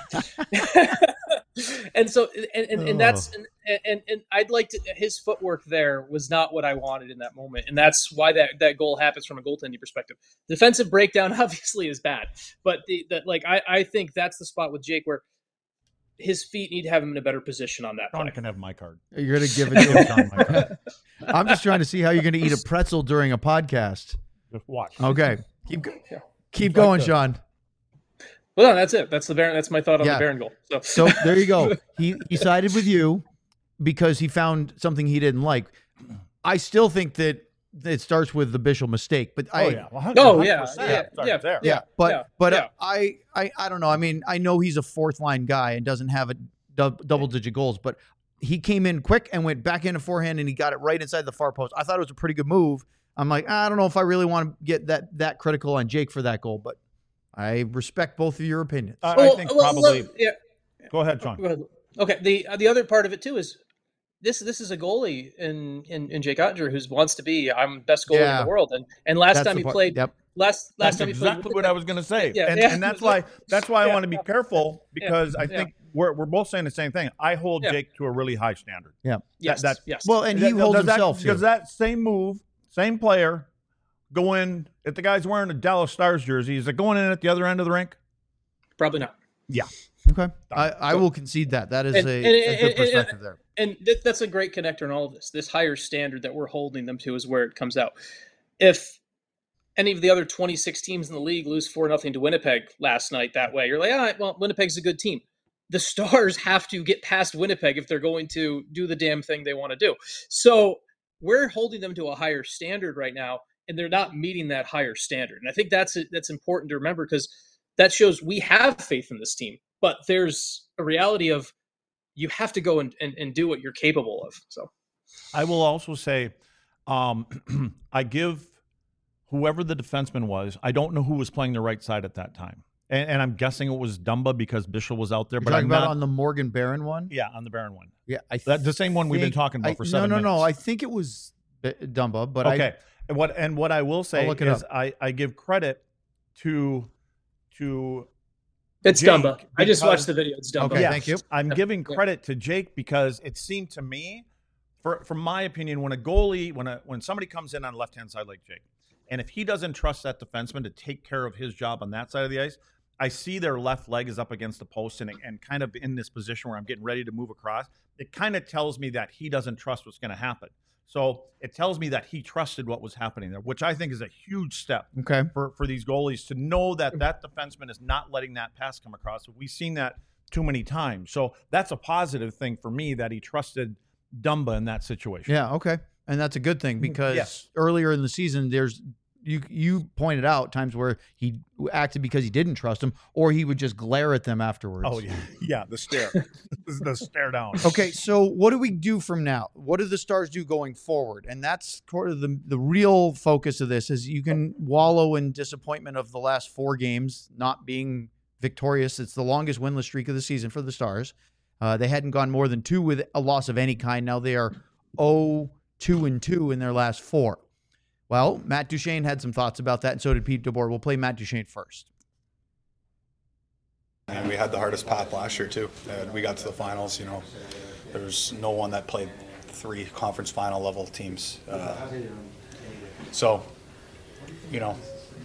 [SPEAKER 3] and so, and, and, and that's, and, and, and I'd like to, his footwork there was not what I wanted in that moment. And that's why that, that goal happens from a goaltending perspective. Defensive breakdown obviously is bad, but the, the like, I, I think that's the spot with Jake where his feet need to have him in a better position on that.
[SPEAKER 2] Sean can have my card.
[SPEAKER 1] You're going to give it to him. My card. I'm just trying to see how you're going to eat a pretzel during a podcast.
[SPEAKER 2] Just watch.
[SPEAKER 1] Okay. Keep keep going, like Sean.
[SPEAKER 3] Well, no, that's it. That's the Barron. That's my thought on
[SPEAKER 1] yeah.
[SPEAKER 3] the Barron goal. So.
[SPEAKER 1] so there you go. He he sided with you because he found something he didn't like. I still think that it starts with the Bichsel mistake, but I
[SPEAKER 2] oh yeah, well,
[SPEAKER 3] oh yeah, yeah, yeah,
[SPEAKER 2] there.
[SPEAKER 1] yeah. But
[SPEAKER 3] yeah,
[SPEAKER 1] but
[SPEAKER 3] yeah.
[SPEAKER 1] Uh, I I I don't know. I mean, I know he's a fourth line guy and doesn't have a du- double digit goals, but he came in quick and went back into forehand and he got it right inside the far post. I thought it was a pretty good move. I'm like, I don't know if I really want to get that that critical on Jake for that goal, but I respect both of your opinions.
[SPEAKER 2] I,
[SPEAKER 3] well,
[SPEAKER 2] I think
[SPEAKER 3] well,
[SPEAKER 2] probably.
[SPEAKER 3] Look, yeah.
[SPEAKER 2] Go ahead, Sean.
[SPEAKER 3] Go ahead. Okay. The the other part of it too is this this is a goalie in in, in Jake Oettinger who wants to be I'm best goalie
[SPEAKER 1] yeah.
[SPEAKER 3] in the world, and and last
[SPEAKER 1] That's
[SPEAKER 3] time he
[SPEAKER 1] part.
[SPEAKER 3] played.
[SPEAKER 1] Yep.
[SPEAKER 3] Last last
[SPEAKER 2] that's
[SPEAKER 3] time
[SPEAKER 2] exactly
[SPEAKER 3] he played,
[SPEAKER 2] what I was going to say,
[SPEAKER 3] yeah,
[SPEAKER 2] and,
[SPEAKER 3] yeah.
[SPEAKER 2] and that's why that's why I
[SPEAKER 3] yeah.
[SPEAKER 2] want to be careful because
[SPEAKER 3] yeah.
[SPEAKER 2] I think
[SPEAKER 3] yeah.
[SPEAKER 2] we're we're both saying the same thing. I hold
[SPEAKER 3] yeah.
[SPEAKER 2] Jake to a really high standard.
[SPEAKER 1] Yeah.
[SPEAKER 3] Yes.
[SPEAKER 2] That, that,
[SPEAKER 3] yes.
[SPEAKER 1] Well, and he
[SPEAKER 2] that,
[SPEAKER 1] holds
[SPEAKER 2] does
[SPEAKER 1] himself
[SPEAKER 2] that,
[SPEAKER 1] to.
[SPEAKER 2] Does that same move, same player, go in if the guy's wearing a Dallas Stars jersey? Is it going in at the other end of the rink?
[SPEAKER 3] Probably not.
[SPEAKER 2] Yeah.
[SPEAKER 1] Okay. I, I will concede that. That is
[SPEAKER 3] And-
[SPEAKER 1] a,
[SPEAKER 3] and-
[SPEAKER 1] a
[SPEAKER 3] and-
[SPEAKER 1] good
[SPEAKER 3] and-
[SPEAKER 1] perspective there.
[SPEAKER 3] And th- that's a great connector in all of this. This higher standard that we're holding them to is where it comes out. If any of the other twenty-six teams in the league lose four nothing to Winnipeg last night that way, you're like, all right, well, Winnipeg's a good team. The Stars have to get past Winnipeg if they're going to do the damn thing they want to do. So we're holding them to a higher standard right now, and they're not meeting that higher standard. And I think that's that's important to remember, because that shows we have faith in this team. But there's a reality of you have to go and, and, and do what you're capable of. So
[SPEAKER 2] I will also say, um, I give whoever the defenseman was, I don't know who was playing the right side at that time. And, and I'm guessing it was Dumba because Bishop was out there.
[SPEAKER 1] You're
[SPEAKER 2] but
[SPEAKER 1] talking
[SPEAKER 2] I'm
[SPEAKER 1] about
[SPEAKER 2] not,
[SPEAKER 1] on the Morgan Barron one?
[SPEAKER 2] yeah, on the Barron one.
[SPEAKER 1] Yeah. I
[SPEAKER 2] That, the same one we've been
[SPEAKER 1] think-
[SPEAKER 2] talking about
[SPEAKER 1] I-
[SPEAKER 2] for seven
[SPEAKER 1] No, no,
[SPEAKER 2] minutes.
[SPEAKER 1] no. I think it was B- Dumba, but
[SPEAKER 2] okay.
[SPEAKER 1] I,
[SPEAKER 2] and what and what I will say
[SPEAKER 1] I'll look it
[SPEAKER 2] is
[SPEAKER 1] up.
[SPEAKER 2] I, I give credit to to
[SPEAKER 3] it's
[SPEAKER 2] Jake,
[SPEAKER 3] Dumba. I just
[SPEAKER 2] because-
[SPEAKER 3] watched the video. It's Dumba.
[SPEAKER 1] Okay,
[SPEAKER 2] Yes,
[SPEAKER 1] thank you.
[SPEAKER 2] I'm giving
[SPEAKER 3] Yeah.
[SPEAKER 2] credit to Jake because it seemed to me, for from my opinion, when a goalie, when a when somebody comes in on the left hand side like Jake, and if he doesn't trust that defenseman to take care of his job on that side of the ice, I see their left leg is up against the post and and kind of in this position where I'm getting ready to move across. It kind of tells me that he doesn't trust what's going to happen. So it tells me that he trusted what was happening there, which I think is a huge step
[SPEAKER 1] okay.
[SPEAKER 2] for, for these goalies to know that that defenseman is not letting that pass come across. We've seen that too many times. So that's a positive thing for me that he trusted Dumba in that situation.
[SPEAKER 1] Yeah, okay. And that's a good thing because
[SPEAKER 2] Yes.
[SPEAKER 1] earlier in the season, there's you you pointed out times where he acted because he didn't trust him, or he would just glare at them afterwards.
[SPEAKER 2] Oh, yeah. Yeah, the stare. the stare down.
[SPEAKER 1] Okay, so what do we do from now? What do the Stars do going forward? And that's sort of the the real focus of this is you can wallow in disappointment of the last four games not being victorious. It's the longest winless streak of the season for the Stars. Uh, they hadn't gone more than two with a loss of any kind. Now they are oh two and two in their last four. Well, Matt Duchene had some thoughts about that, and so did Pete DeBoer. We'll play Matt Duchene first.
[SPEAKER 6] And we had the hardest path last year too. Uh, we got to the finals. You know, there's no one that played three conference final level teams. Uh, so, you know,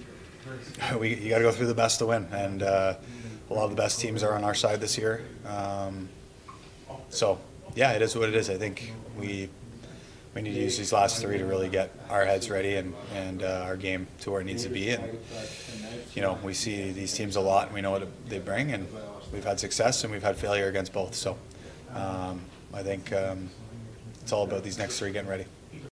[SPEAKER 6] we you got to go through the best to win, and uh, a lot of the best teams are on our side this year. Um, so, yeah, it is what it is. I think we we need to use these last three to really get our heads ready and and uh, our game to where it needs to be. And you know, we see these teams a lot, and we know what they bring, and we've had success and we've had failure against both. So um, I think um, it's all about these next three getting ready.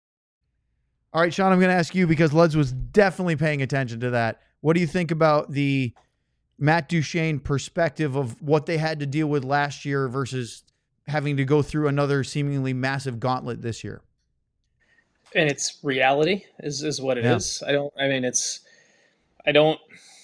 [SPEAKER 1] All right, Sean, I'm going to ask you because Luds was definitely paying attention to that. What do you think about the Matt Duchene perspective of what they had to deal with last year versus having to go through another seemingly massive gauntlet this year?
[SPEAKER 3] And it's reality is, is what it
[SPEAKER 1] Yeah.
[SPEAKER 3] is. I don't, I mean, it's, I don't,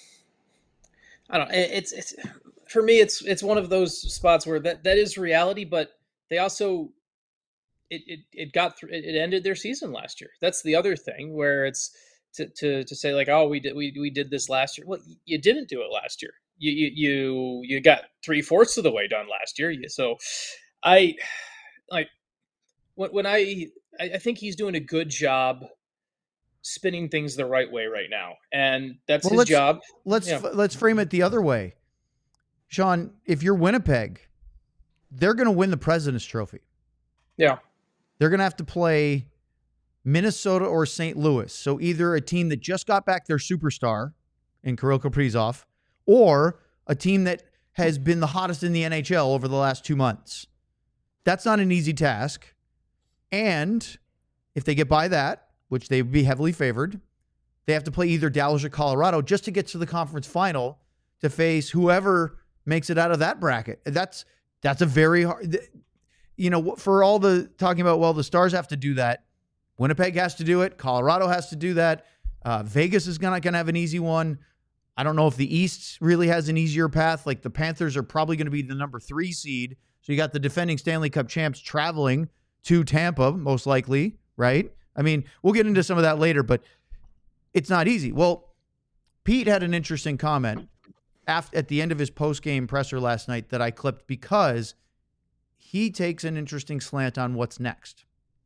[SPEAKER 3] I don't, it- it's, it's, for me, it's, it's one of those spots where that, that is reality, but they also, it, it, it got through, it ended their season last year. That's the other thing where it's to, to, to say like, oh, we did, we, we did this last year. Well, you didn't do it last year. You, you, you, you got three fourths of the way done last year. So I like when, when I, I think he's doing a good job spinning things the right way right now, and that's
[SPEAKER 1] Well,
[SPEAKER 3] his
[SPEAKER 1] let's-
[SPEAKER 3] job.
[SPEAKER 1] Let's
[SPEAKER 3] Yeah.
[SPEAKER 1] let's frame it the other way. Sean, if you're Winnipeg, they're going to win the President's Trophy.
[SPEAKER 3] Yeah,
[SPEAKER 1] They're going to have to play Minnesota or Saint Louis. So either a team that just got back their superstar in Kirill Kaprizov or a team that has been the hottest in the N H L over the last two months. That's not an easy task. And if they get by that, which they would be heavily favored, they have to play either Dallas or Colorado just to get to the conference final to face whoever makes it out of that bracket. That's that's a very hard, you know, for all the talking about, well, the Stars have to do that. Winnipeg has to do it. Colorado has to do that. Uh, Vegas is not going to have an easy one. I don't know if the East really has an easier path. Like the Panthers are probably going to be the number three seed. So you got the defending Stanley Cup champs traveling to Tampa, most likely, right? I mean, we'll get into some of that later, but it's not easy. Well, Pete had an interesting comment after, at the end of his post-game presser last night that I clipped because he takes an interesting slant on what's next.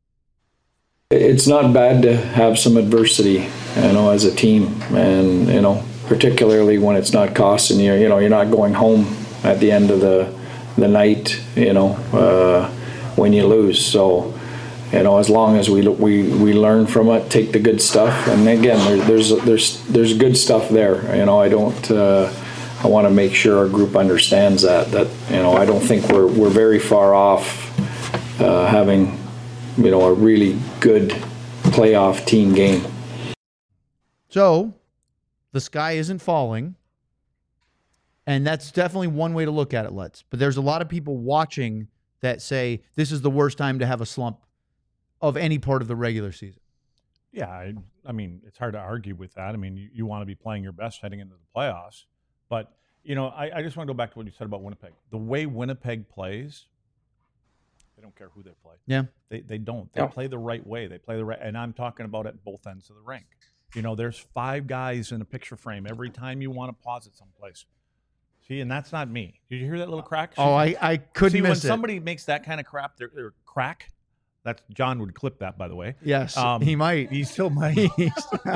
[SPEAKER 7] It's not bad to have some adversity, you know, as a team, and you know, particularly when it's not costing you. You know, you're not going home at the end of the the night, you know, uh, when you lose. So, you know, as long as we we we learn from it, take the good stuff, and again, there, there's there's there's good stuff there. You know, I don't. Uh, I want to make sure our group understands that. That you know, I don't think we're we're very far off uh, having, you know, a really good playoff team game.
[SPEAKER 1] So, the sky isn't falling. And that's definitely one way to look at it, Let's. But there's a lot of people watching that say this is the worst time to have a slump of any part of the regular season.
[SPEAKER 2] Yeah, I, I mean, it's hard to argue with that. I mean, you, you want to be playing your best heading into the playoffs. But, you know, I, I just want to go back to what you said about Winnipeg. The way Winnipeg plays, they don't care who they play.
[SPEAKER 1] Yeah.
[SPEAKER 2] They they don't. They
[SPEAKER 3] Yeah.
[SPEAKER 2] play the right way. They play the right, and I'm talking about at both ends of the rink. You know, there's five guys in a picture frame every time you want to pause it someplace. See, and that's not me. Did you hear that little crack?
[SPEAKER 1] Oh, I, I couldn't
[SPEAKER 2] See,
[SPEAKER 1] miss
[SPEAKER 2] when
[SPEAKER 1] it.
[SPEAKER 2] somebody makes that kind of crap, they're, they're crack. That's John would clip that, by the way.
[SPEAKER 1] Yes,
[SPEAKER 2] Um,
[SPEAKER 1] he might.
[SPEAKER 2] He still might.
[SPEAKER 4] Listen,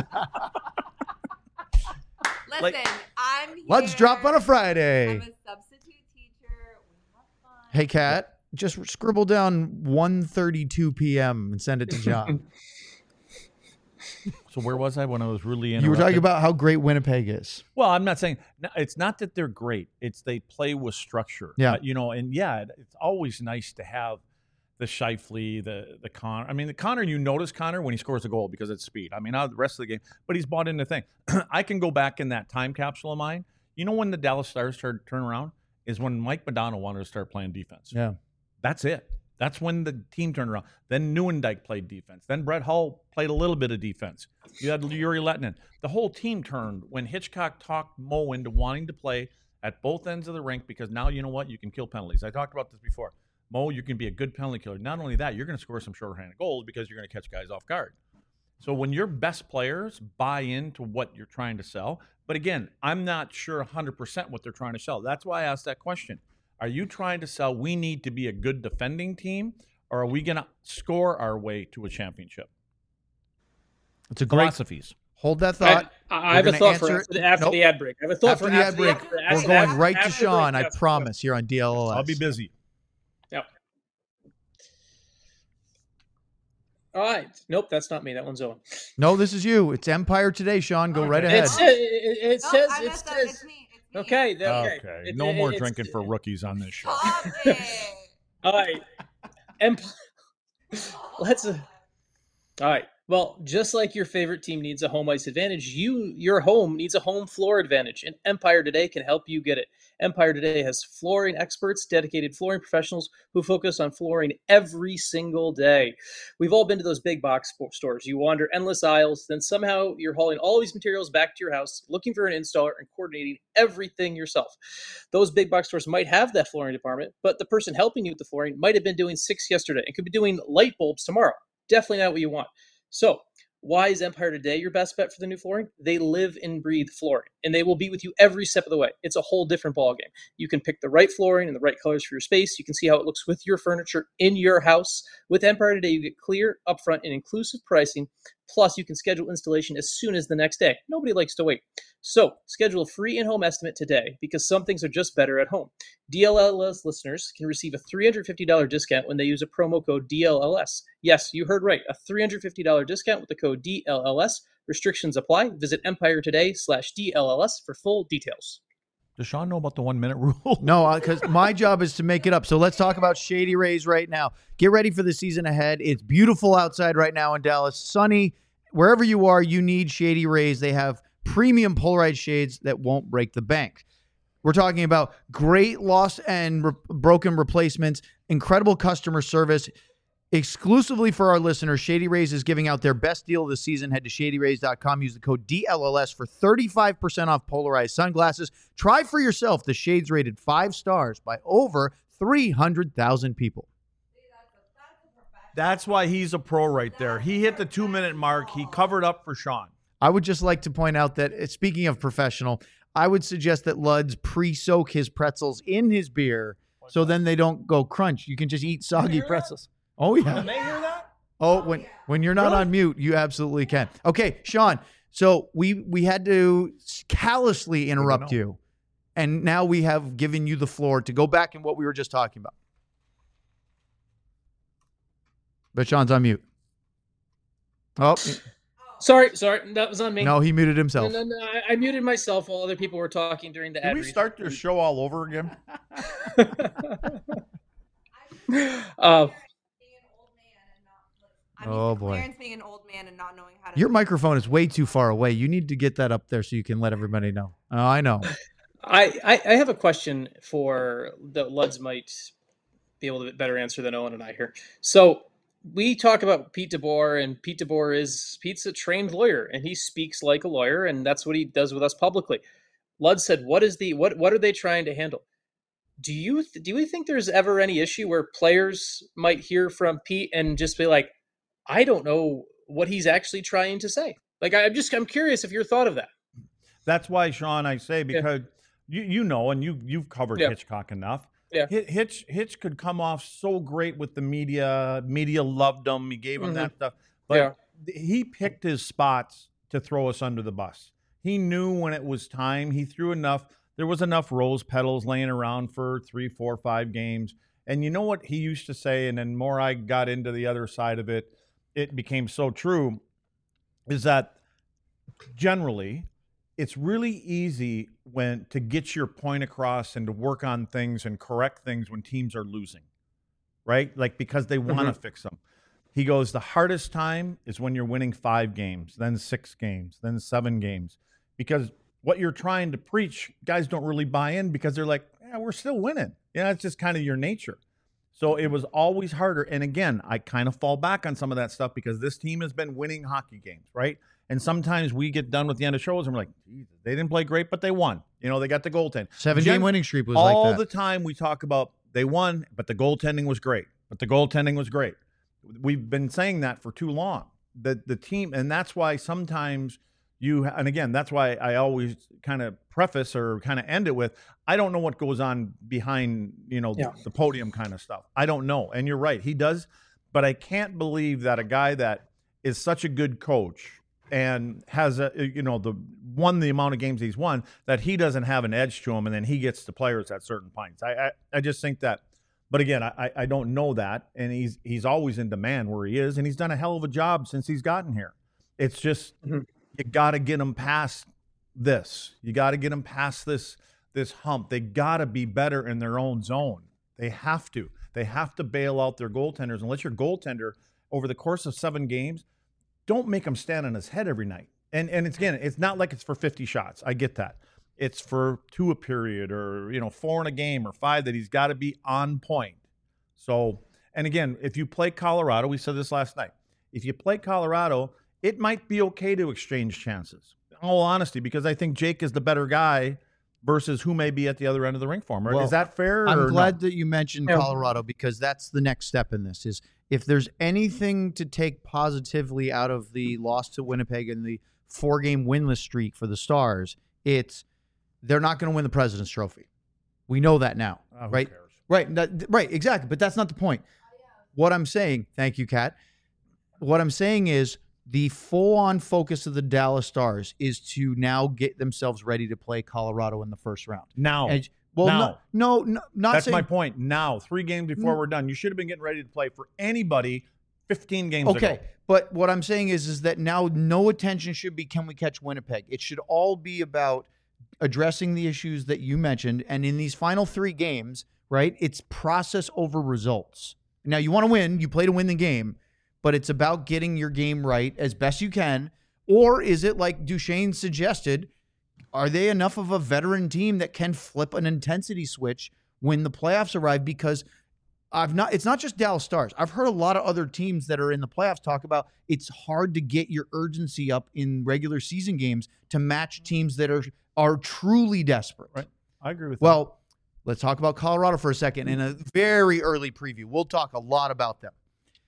[SPEAKER 2] Like-
[SPEAKER 4] I'm here.
[SPEAKER 1] Let's drop on a
[SPEAKER 4] I'm
[SPEAKER 1] Friday.
[SPEAKER 4] a substitute teacher. We have fun.
[SPEAKER 1] Hey, Kat, just scribble down one thirty-two p.m. and send it to John.
[SPEAKER 2] So where was I when I was really interrupted?
[SPEAKER 1] You were talking about how great Winnipeg is.
[SPEAKER 2] Well, I'm not saying no, it's not that they're great. It's they play with structure.
[SPEAKER 1] Yeah.
[SPEAKER 2] Uh, you know, and yeah, it- it's always nice to have the Scheifele, the the Connor. I mean, the Connor. You notice Connor when he scores a goal because it's speed. I mean, not the rest of the game, but he's bought into the thing. I can go back in that time capsule of mine. You know when the Dallas Stars started to turn around is when Mike Modano wanted to start playing defense.
[SPEAKER 1] Yeah.
[SPEAKER 2] That's it. That's when the team turned around. Then Neuendijk played defense. Then Brett Hull played a little bit of defense. You had Yuri Lettinen. The whole team turned when Hitchcock talked Mo into wanting to play at both ends of the rink because now you know what? You can kill penalties. I talked about this before. Mo, you can be a good penalty killer. Not only that, you're going to score some shorthanded goals because you're going to catch guys off guard. So when your best players buy into what you're trying to sell, but again, I'm not sure one hundred percent what they're trying to sell. That's why I asked that question. Are you trying to sell we need to be a good defending team, or are we going to score our way to a championship?
[SPEAKER 1] It's a great
[SPEAKER 2] Philosophies.
[SPEAKER 1] Hold that thought.
[SPEAKER 3] I, I
[SPEAKER 1] We're
[SPEAKER 3] have a
[SPEAKER 1] gonna
[SPEAKER 3] thought for
[SPEAKER 1] answer
[SPEAKER 3] after,
[SPEAKER 1] it.
[SPEAKER 3] the, after
[SPEAKER 1] Nope.
[SPEAKER 3] the ad break. I have a thought
[SPEAKER 1] After
[SPEAKER 3] for
[SPEAKER 1] the ad break,
[SPEAKER 3] after,
[SPEAKER 1] we're
[SPEAKER 3] after,
[SPEAKER 1] going
[SPEAKER 3] after,
[SPEAKER 1] right to
[SPEAKER 3] after the
[SPEAKER 1] Sean.
[SPEAKER 3] break,
[SPEAKER 1] I
[SPEAKER 3] yes.
[SPEAKER 1] promise. Here on D L L S.
[SPEAKER 2] I'll be busy.
[SPEAKER 3] Yep. All right. Nope, that's not me. That one's Owen.
[SPEAKER 1] No, this is you. It's Empire Today, Sean. Go right ahead.
[SPEAKER 3] It, sa- it, it, it
[SPEAKER 4] No,
[SPEAKER 3] says
[SPEAKER 4] I
[SPEAKER 3] it
[SPEAKER 4] messed up.
[SPEAKER 3] says
[SPEAKER 4] It's me. It's me.
[SPEAKER 3] okay. th- Okay.
[SPEAKER 2] Okay.
[SPEAKER 3] It-
[SPEAKER 2] No
[SPEAKER 3] it-
[SPEAKER 2] more
[SPEAKER 3] it's-
[SPEAKER 2] drinking for rookies on this show.
[SPEAKER 4] Stop it.
[SPEAKER 3] All right. Emp- Let's. Uh, all right. Well, just like your favorite team needs a home ice advantage, you your home needs a home floor advantage, and Empire Today can help you get it. Empire Today has flooring experts, dedicated flooring professionals who focus on flooring every single day. We've all been to those big box spo- stores. You wander endless aisles, then somehow you're hauling all these materials back to your house, looking for an installer and coordinating everything yourself. Those big box stores might have that flooring department, but the person helping you with the flooring might have been doing six yesterday and could be doing light bulbs tomorrow. Definitely not what you want. So, why is Empire Today your best bet for the new flooring? They live and breathe flooring, and they will be with you every step of the way. It's a whole different ballgame. You can pick the right flooring and the right colors for your space. You can see how it looks with your furniture in your house. With Empire Today, you get clear, upfront, and inclusive pricing. Plus, you can schedule installation as soon as the next day. Nobody likes to wait. So, schedule a free in-home estimate today because some things are just better at home. D L L S listeners can receive a three hundred fifty dollars discount when they use a promo code D L L S. Yes, you heard right. A three hundred fifty dollars discount with the code D L L S. Restrictions apply. Visit Empire Today slash D L L S for full details.
[SPEAKER 2] Does Sean know about the one minute rule?
[SPEAKER 1] No, because my job is to make it up. So let's talk about Shady Rays right now. Get ready for the season ahead. It's beautiful outside right now in Dallas. Sunny. Wherever you are, you need Shady Rays. They have premium polarized shades that won't break the bank. We're talking about great lost and re- broken replacements, incredible customer service. Exclusively for our listeners, Shady Rays is giving out their best deal of the season. Head to shady rays dot com. Use the code D L L S for thirty-five percent off polarized sunglasses. Try for yourself the shades rated five stars by over three hundred thousand people.
[SPEAKER 2] That's why he's a pro right there. He hit the two minute mark. He covered up for Sean.
[SPEAKER 1] I would just like to point out that, uh, speaking of professional, I would suggest that Luds pre-soak his pretzels in his beer so then they don't go crunch. You can just eat soggy pretzels. Oh, yeah.
[SPEAKER 2] Can they hear that?
[SPEAKER 1] Oh, when when you're not on mute, you absolutely can. Okay, Sean, so we we had to callously interrupt you And now we have given you the floor to go back in what we were just talking about. But Sean's on mute. Oh,
[SPEAKER 3] Sorry, sorry, that was on me.
[SPEAKER 1] no, he muted himself.
[SPEAKER 3] No, no, no, I, I muted myself while other people were talking during the
[SPEAKER 2] Did
[SPEAKER 3] ad
[SPEAKER 2] we
[SPEAKER 3] read.
[SPEAKER 2] start this show all over again?
[SPEAKER 3] uh,
[SPEAKER 4] I mean,
[SPEAKER 1] Oh, boy.
[SPEAKER 4] Clarence being an old man and not knowing how to.
[SPEAKER 1] Your microphone is way too far away. You need to get that up there so you can let everybody know. Oh, I know.
[SPEAKER 3] I, I I have a question for that Luds might be able to better answer than Owen and I here. So we talk about Pete DeBoer, and Pete DeBoer is Pete's a trained lawyer, and he speaks like a lawyer, and that's what he does with us publicly. Lud said, "What is the what? What are they trying to handle?" Do you do you think there's ever any issue where players might hear from Pete and just be like, "I don't know what he's actually trying to say"? Like, I'm just I'm curious if your thought of that.
[SPEAKER 2] That's why, Sean, I say because you you know, and you you've covered
[SPEAKER 3] Yeah.
[SPEAKER 2] Hitchcock enough.
[SPEAKER 3] Yeah.
[SPEAKER 2] Hi- Hitch Hitch could come off so great with the media. Media loved him. He gave him
[SPEAKER 3] Mhm.
[SPEAKER 2] that stuff. But
[SPEAKER 3] Yeah.
[SPEAKER 2] th- he picked his spots to throw us under the bus. He knew when it was time. He threw enough. There was enough rose petals laying around for three, four, five games. And you know what he used to say, and then more I got into the other side of it, it became so true, is that generally it's really easy when to get your point across and to work on things and correct things when teams are losing, right? Like because they want to fix them. He goes, the hardest time is when you're winning five games, then six games, then seven games, because what you're trying to preach, guys don't really buy in because they're like, yeah, we're still winning. Yeah, it's just kind of your nature. So it was always harder. And again, I kind of fall back on some of that stuff because this team has been winning hockey games, right? And sometimes we get done with the end of shows and we're like, Jesus, they didn't play great, but they won. You know, they got the goaltend.
[SPEAKER 1] Seven
[SPEAKER 2] Gen-
[SPEAKER 1] game winning streak was
[SPEAKER 2] all
[SPEAKER 1] like that.
[SPEAKER 2] the time we talk about they won, but the goaltending was great. But the goaltending was great. We've been saying that for too long. The the team, and that's why sometimes you, and again, that's why I always kind of preface or kind of end it with, I don't know what goes on behind, you know,
[SPEAKER 3] Yeah.
[SPEAKER 2] the podium kind of stuff. I don't know. And you're right, he does, but I can't believe that a guy that is such a good coach and has a, you know, the won the amount of games he's won, that he doesn't have an edge to him, and then he gets the players at certain points. I I, I just think that, but again, I I don't know that, and he's he's always in demand where he is, and he's done a hell of a job since he's gotten here. It's just
[SPEAKER 3] Mhm.
[SPEAKER 2] you got to get him past this. You got to get him past this this hump. They got to be better in their own zone. They have to. They have to bail out their goaltenders. Unless your goaltender over the course of seven games, don't make him stand on his head every night. And and it's, again, it's not like it's for fifty shots. I get that. It's for two a period, or, you know, four in a game, or five, that he's got to be on point. So, and again, if you play Colorado, we said this last night, if you play Colorado, it might be okay to exchange chances. In all honesty, because I think Jake is the better guy versus who may be at the other end of the rink for him.
[SPEAKER 1] Well,
[SPEAKER 2] is that fair?
[SPEAKER 1] I'm
[SPEAKER 2] or
[SPEAKER 1] glad
[SPEAKER 2] no?
[SPEAKER 1] that you mentioned
[SPEAKER 3] Yeah.
[SPEAKER 1] Colorado, because that's the next step in this. Is if there's anything to take positively out of the loss to Winnipeg and the four-game winless streak for the Stars, it's they're not going to win the President's Trophy. We know that now,
[SPEAKER 2] Oh, who
[SPEAKER 1] right?
[SPEAKER 2] cares?
[SPEAKER 1] Right, that, right, exactly. But that's not the point. What I'm saying, thank you, Kat. What I'm saying is the full-on focus of the Dallas Stars is to now get themselves ready to play Colorado in the first round.
[SPEAKER 2] Now.
[SPEAKER 1] And, well,
[SPEAKER 2] Now.
[SPEAKER 1] no, no, no, not
[SPEAKER 2] That's
[SPEAKER 1] saying,
[SPEAKER 2] my point. Now, three games before
[SPEAKER 1] Mm.
[SPEAKER 2] we're done, you should have been getting ready to play for anybody fifteen games ago.
[SPEAKER 1] Okay, but what I'm saying is, is that now no attention should be can we catch Winnipeg. It should all be about addressing the issues that you mentioned, and in these final three games, right? It's process over results. Now you want to win, you play to win the game, but it's about getting your game right as best you can. Or is it like Duchesne suggested? Are they enough of a veteran team that can flip an intensity switch when the playoffs arrive? Because I've not, it's not just Dallas Stars. I've heard a lot of other teams that are in the playoffs talk about it's hard to get your urgency up in regular season games to match teams that are are truly desperate.
[SPEAKER 2] Right. I agree with
[SPEAKER 1] Well, let's talk about Colorado for a second in a very early preview. We'll talk a lot about them.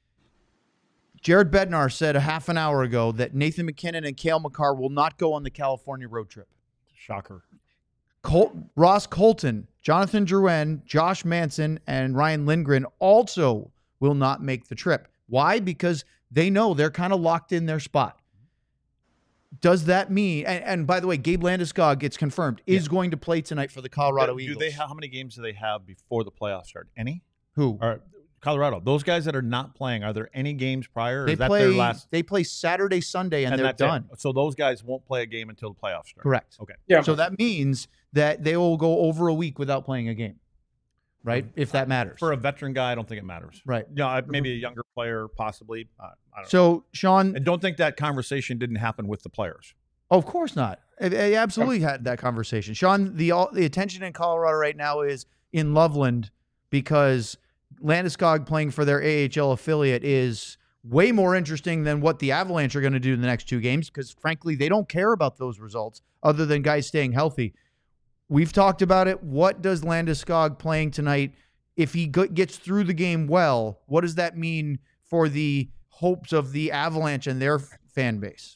[SPEAKER 1] Jared Bednar said a half an hour ago that Nathan McKinnon and Cale Makar will not go on the California road trip.
[SPEAKER 2] that. Shocker.
[SPEAKER 1] Col- Ross Colton, Jonathan Drouin, Josh Manson, and Ryan Lindgren also will not make the trip. Why? Because they know they're kind of locked in their spot. does that mean? And, and by the way, Gabe Landeskog, it's confirmed, is
[SPEAKER 2] Yeah.
[SPEAKER 1] going to play tonight for the Colorado
[SPEAKER 2] do
[SPEAKER 1] Eagles.
[SPEAKER 2] they? How many games do they have before the playoffs start? Any?
[SPEAKER 1] Who?
[SPEAKER 2] Or Colorado? Those guys that are not playing, are there any games prior? Or
[SPEAKER 1] They
[SPEAKER 2] is that
[SPEAKER 1] play.
[SPEAKER 2] their last?
[SPEAKER 1] They play Saturday, Sunday, and, they're
[SPEAKER 2] that's it?
[SPEAKER 1] done.
[SPEAKER 2] So those guys won't play a game until the playoffs start.
[SPEAKER 1] Correct.
[SPEAKER 2] Okay.
[SPEAKER 3] Yeah.
[SPEAKER 1] So that means that they will go over a week without playing a game, right? If that matters.
[SPEAKER 2] For a veteran guy, I don't think it matters.
[SPEAKER 1] Right.
[SPEAKER 2] No, I- maybe a younger player, possibly. Uh, I don't know.
[SPEAKER 1] So, Sean,
[SPEAKER 2] And don't think that conversation didn't happen with the players.
[SPEAKER 1] of course not. I, I absolutely had that conversation. Sean, the all, the attention in Colorado right now is in Loveland because Landeskog playing for their A H L affiliate is way more interesting than what the Avalanche are going to do in the next two games because, frankly, they don't care about those results other than guys staying healthy. We've talked about it. What does Landeskog playing tonight, if he go- gets through the game well, what does that mean for the hopes of the Avalanche and their f- fan base?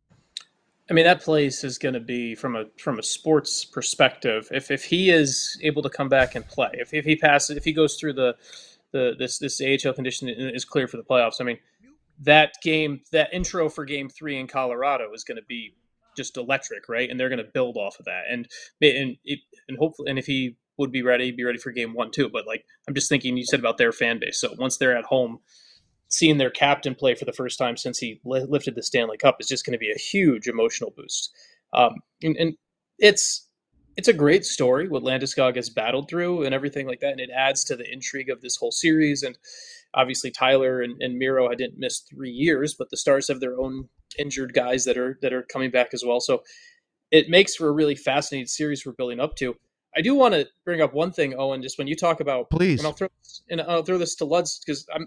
[SPEAKER 3] I mean, that place is going to be from a from a sports perspective. If if he is able to come back and play, if if he passes, if he goes through the the this this A H L condition and is clear for the playoffs, I mean, that game, that intro for Game Three in Colorado is going to be just electric, right? And they're going to build off of that, and and it, and hopefully, and if he would be ready, be ready for Game One too. But like, I'm just thinking, you said about their fan base. So once they're at home, seeing their captain play for the first time since he li- lifted the Stanley Cup is just going to be a huge emotional boost. Um, and, and it's it's a great story what Landeskog has battled through and everything like that, and it adds to the intrigue of this whole series. And obviously, Tyler and, and Miro, I didn't miss three years, but the Stars have their own injured guys that are that are coming back as well. So it makes for a really fascinating series we're building up to. I do want to bring up one thing, Owen, just when you talk about,
[SPEAKER 1] Please.
[SPEAKER 3] and I'll throw and I'll throw this to Luds because I'm.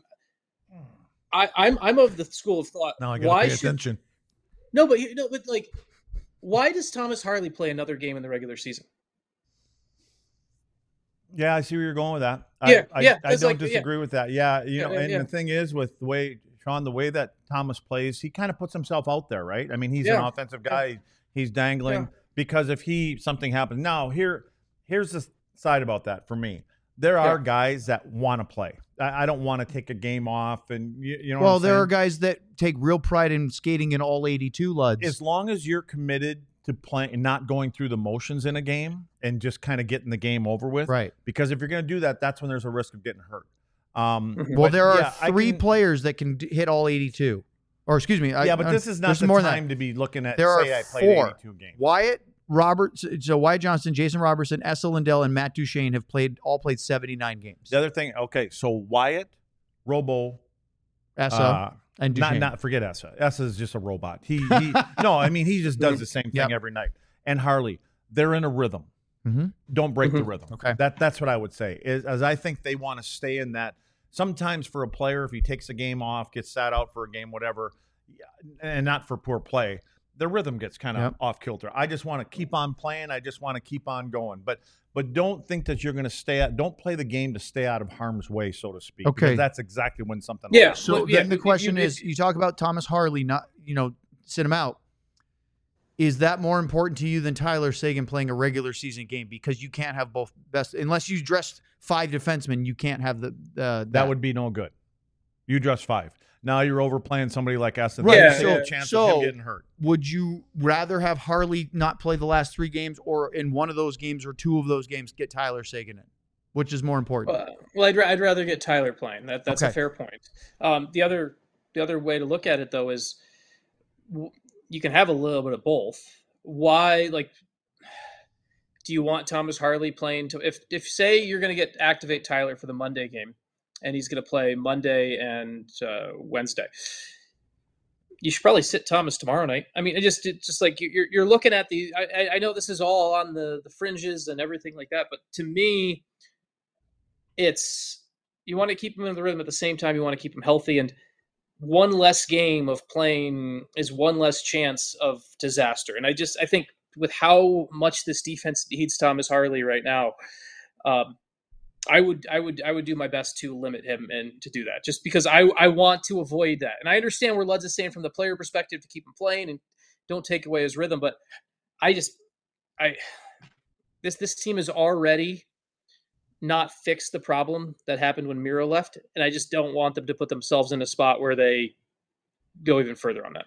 [SPEAKER 3] I, I'm I'm of the school of thought.
[SPEAKER 2] Now I got to
[SPEAKER 3] why
[SPEAKER 2] pay
[SPEAKER 3] should,
[SPEAKER 2] attention.
[SPEAKER 3] No, but you know, but like, why does Thomas Harley play another game in the regular season?
[SPEAKER 2] Yeah, I see where you're going with that.
[SPEAKER 3] Yeah,
[SPEAKER 2] I,
[SPEAKER 3] yeah,
[SPEAKER 2] I, I
[SPEAKER 3] it's
[SPEAKER 2] don't
[SPEAKER 3] like- yeah.
[SPEAKER 2] disagree with that. Yeah, you
[SPEAKER 3] Yeah,
[SPEAKER 2] know,
[SPEAKER 3] yeah,
[SPEAKER 2] and
[SPEAKER 3] yeah.
[SPEAKER 2] the thing is, with the way Sean, the way that Thomas plays, he kind of puts himself out there, right? I mean, he's an
[SPEAKER 3] Yeah.
[SPEAKER 2] offensive guy. He's dangling
[SPEAKER 3] Yeah.
[SPEAKER 2] because if he something happens now, here, here's the side about that for me. There are
[SPEAKER 3] Yeah.
[SPEAKER 2] guys that want to play. I, I don't want to take a game off, and you, you know.
[SPEAKER 1] Well,
[SPEAKER 2] what I'm
[SPEAKER 1] there are
[SPEAKER 2] saying?
[SPEAKER 1] guys that take real pride in skating in all eighty-two, Luds.
[SPEAKER 2] As long as you're committed to playing and not going through the motions in a game and just kind of getting the game over with,
[SPEAKER 1] right.
[SPEAKER 2] because if you're going to do that, that's when there's a risk of getting hurt. Um,
[SPEAKER 3] Mhm.
[SPEAKER 1] Well,
[SPEAKER 2] but
[SPEAKER 1] there are
[SPEAKER 2] yeah, I
[SPEAKER 1] three
[SPEAKER 2] can-
[SPEAKER 1] players that can d- hit all eighty-two. Or excuse me. I-
[SPEAKER 2] Yeah, but
[SPEAKER 1] I-
[SPEAKER 2] this is not
[SPEAKER 1] there's
[SPEAKER 2] the
[SPEAKER 1] more than
[SPEAKER 2] time
[SPEAKER 1] that.
[SPEAKER 2] to be looking at.
[SPEAKER 1] There are
[SPEAKER 2] say I played
[SPEAKER 1] four.
[SPEAKER 2] eighty-two games.
[SPEAKER 1] Wyatt, Robert, so Wyatt Johnston, Jason Robertson, Essa Lindell, and Matt Duchesne have played all played seventy-nine games.
[SPEAKER 2] The other thing, okay, so Wyatt, Robo,
[SPEAKER 1] Essa
[SPEAKER 2] uh,
[SPEAKER 1] and
[SPEAKER 2] not
[SPEAKER 1] Duchesne.
[SPEAKER 2] not forget Essa. Essa is just a robot. He, he no, I mean he just does the same thing
[SPEAKER 1] Yep.
[SPEAKER 2] every night. And Harley, they're in a rhythm.
[SPEAKER 1] Mhm.
[SPEAKER 2] Don't break the
[SPEAKER 3] Mhm.
[SPEAKER 2] rhythm.
[SPEAKER 1] Okay.
[SPEAKER 2] That that's what I would say. Is as I think they want to stay in that. Sometimes for a player, if he takes a game off, gets sat out for a game, whatever, and not for poor play, the rhythm gets kind of
[SPEAKER 1] Yep.
[SPEAKER 2] off kilter. I just want to keep on playing. I just want to keep on going. But but don't think that you're going to stay at. Don't play the game to stay out of harm's way, so to speak.
[SPEAKER 1] Okay.
[SPEAKER 2] Because that's exactly when something.
[SPEAKER 3] Yeah.
[SPEAKER 2] happens.
[SPEAKER 1] So
[SPEAKER 3] Well, yeah,
[SPEAKER 1] then the
[SPEAKER 3] you-
[SPEAKER 1] question
[SPEAKER 3] you-
[SPEAKER 1] is, you talk about Thomas Harley, not you know, sit him out. Is that more important to you than Tyler Seguin playing a regular season game because you can't have both best unless you dressed five defensemen, you can't have the uh, that,
[SPEAKER 2] that would be no good. You just five. Now you're overplaying somebody like us.
[SPEAKER 1] Right,
[SPEAKER 2] There's
[SPEAKER 3] so-
[SPEAKER 2] a chance of
[SPEAKER 1] so-
[SPEAKER 2] him getting hurt.
[SPEAKER 1] Would you rather have Harley not play the last three games, or in one of those games or two of those games get Tyler Seguin in? Which is more important?
[SPEAKER 3] Uh, well, I'd, ra- I'd rather get Tyler playing. That that's
[SPEAKER 1] Okay.
[SPEAKER 3] a fair point. Um, the other the other way to look at it though is w- you can have a little bit of both. Why, like, do you want Thomas Harley playing? To if if say you're going to get activate Tyler for the Monday game, and he's going to play Monday and uh, Wednesday. You should probably sit Thomas tomorrow night. I mean, it just it just like you're you're looking at the. I, I know this is all on the the fringes and everything like that, but to me, it's you want to keep him in the rhythm at the same time. You want to keep him healthy, and one less game of playing is one less chance of disaster. And I just I think with how much this defense needs Thomas Harley right now, um, I would I would I would do my best to limit him and to do that, just because I I want to avoid that. And I understand where Luds is saying from the player perspective to keep him playing and don't take away his rhythm, but I just I this this team is already not fixed the problem that happened when Miro left, and I just don't want them to put themselves in a spot where they go even further on that.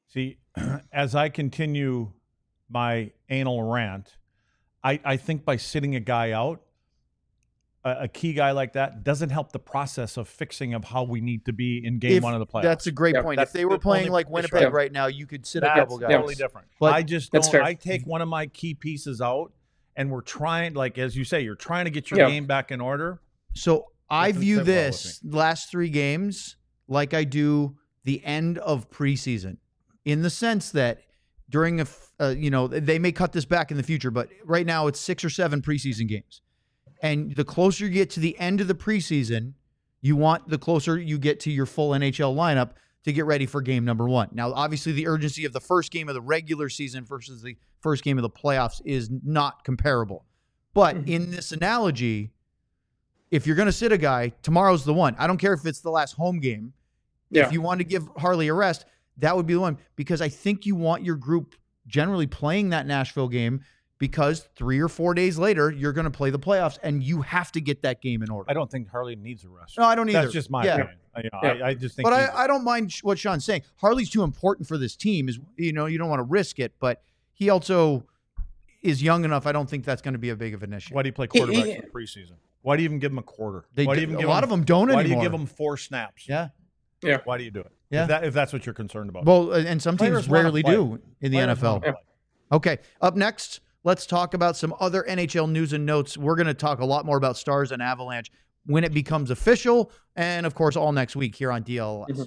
[SPEAKER 2] See, as I continue my anal rant, I, I think by sitting a guy out, a, a key guy like that doesn't help the process of fixing of how we need to be in game
[SPEAKER 1] If-
[SPEAKER 2] one of the playoffs.
[SPEAKER 1] That's a great
[SPEAKER 3] Yeah,
[SPEAKER 1] point. If
[SPEAKER 2] that's
[SPEAKER 1] they were
[SPEAKER 2] the
[SPEAKER 1] playing
[SPEAKER 2] only
[SPEAKER 1] like
[SPEAKER 2] issue.
[SPEAKER 1] Winnipeg
[SPEAKER 3] Yeah.
[SPEAKER 1] right now, you could sit a
[SPEAKER 2] That's
[SPEAKER 1] couple guys.
[SPEAKER 2] totally different.
[SPEAKER 1] But
[SPEAKER 2] I just
[SPEAKER 3] That's
[SPEAKER 2] don't.
[SPEAKER 3] fair.
[SPEAKER 2] I take one of my key pieces out, and we're trying, like as you say, you're trying to get your
[SPEAKER 3] Yeah.
[SPEAKER 2] game back in order.
[SPEAKER 1] So I
[SPEAKER 2] Doesn't
[SPEAKER 1] view
[SPEAKER 2] sit well with
[SPEAKER 1] this last three games like I do the end of preseason, in the sense that during a, f- uh, you know, they may cut this back in the future, but right now it's six or seven preseason games. And the closer you get to the end of the preseason, you want the closer you get to your full N H L lineup to get ready for game number one. Now, obviously, the urgency of the first game of the regular season versus the first game of the playoffs is not comparable. But
[SPEAKER 3] Mhm.
[SPEAKER 1] in this analogy, if you're going to sit a guy, tomorrow's the one. I don't care if it's the last home game.
[SPEAKER 3] Yeah.
[SPEAKER 1] If you want to give Harley a rest, that would be the one, because I think you want your group generally playing that Nashville game, because three or four days later, you're going to play the playoffs and you have to get that game in order.
[SPEAKER 2] I don't think Harley needs a rest.
[SPEAKER 1] No, I don't either.
[SPEAKER 2] That's just my
[SPEAKER 1] Yeah.
[SPEAKER 2] opinion. I- You know,
[SPEAKER 3] Yeah.
[SPEAKER 2] I, I just think.
[SPEAKER 1] But
[SPEAKER 2] he's-
[SPEAKER 1] I, I don't mind sh- what Sean's saying. Harley's too important for this team. Is you know you don't want to risk it, but he also is young enough. I don't think that's going to be a big of an issue.
[SPEAKER 2] why do you play
[SPEAKER 3] He-
[SPEAKER 2] quarterback
[SPEAKER 3] he-
[SPEAKER 2] in the preseason? Why do you even give him a quarter?
[SPEAKER 1] They
[SPEAKER 2] why
[SPEAKER 1] do-
[SPEAKER 2] do you even
[SPEAKER 1] a
[SPEAKER 2] give
[SPEAKER 1] lot
[SPEAKER 2] him,
[SPEAKER 1] of them don't
[SPEAKER 2] Why
[SPEAKER 1] anymore.
[SPEAKER 2] do you give him four snaps?
[SPEAKER 1] Yeah.
[SPEAKER 3] Yeah.
[SPEAKER 2] Why do you do it?
[SPEAKER 1] Yeah.
[SPEAKER 2] If, that, if that's what you're concerned about.
[SPEAKER 1] Well, uh, and some
[SPEAKER 2] Players
[SPEAKER 1] teams
[SPEAKER 2] wanna
[SPEAKER 1] rarely
[SPEAKER 2] play.
[SPEAKER 1] do in the
[SPEAKER 2] Players
[SPEAKER 1] N F L.
[SPEAKER 2] wanna play.
[SPEAKER 1] Okay. Up next, let's talk about some other N H L news and notes. We're going to talk a lot more about Stars and Avalanche when it becomes official, and of course, all next week here on D L S.
[SPEAKER 3] Mhm.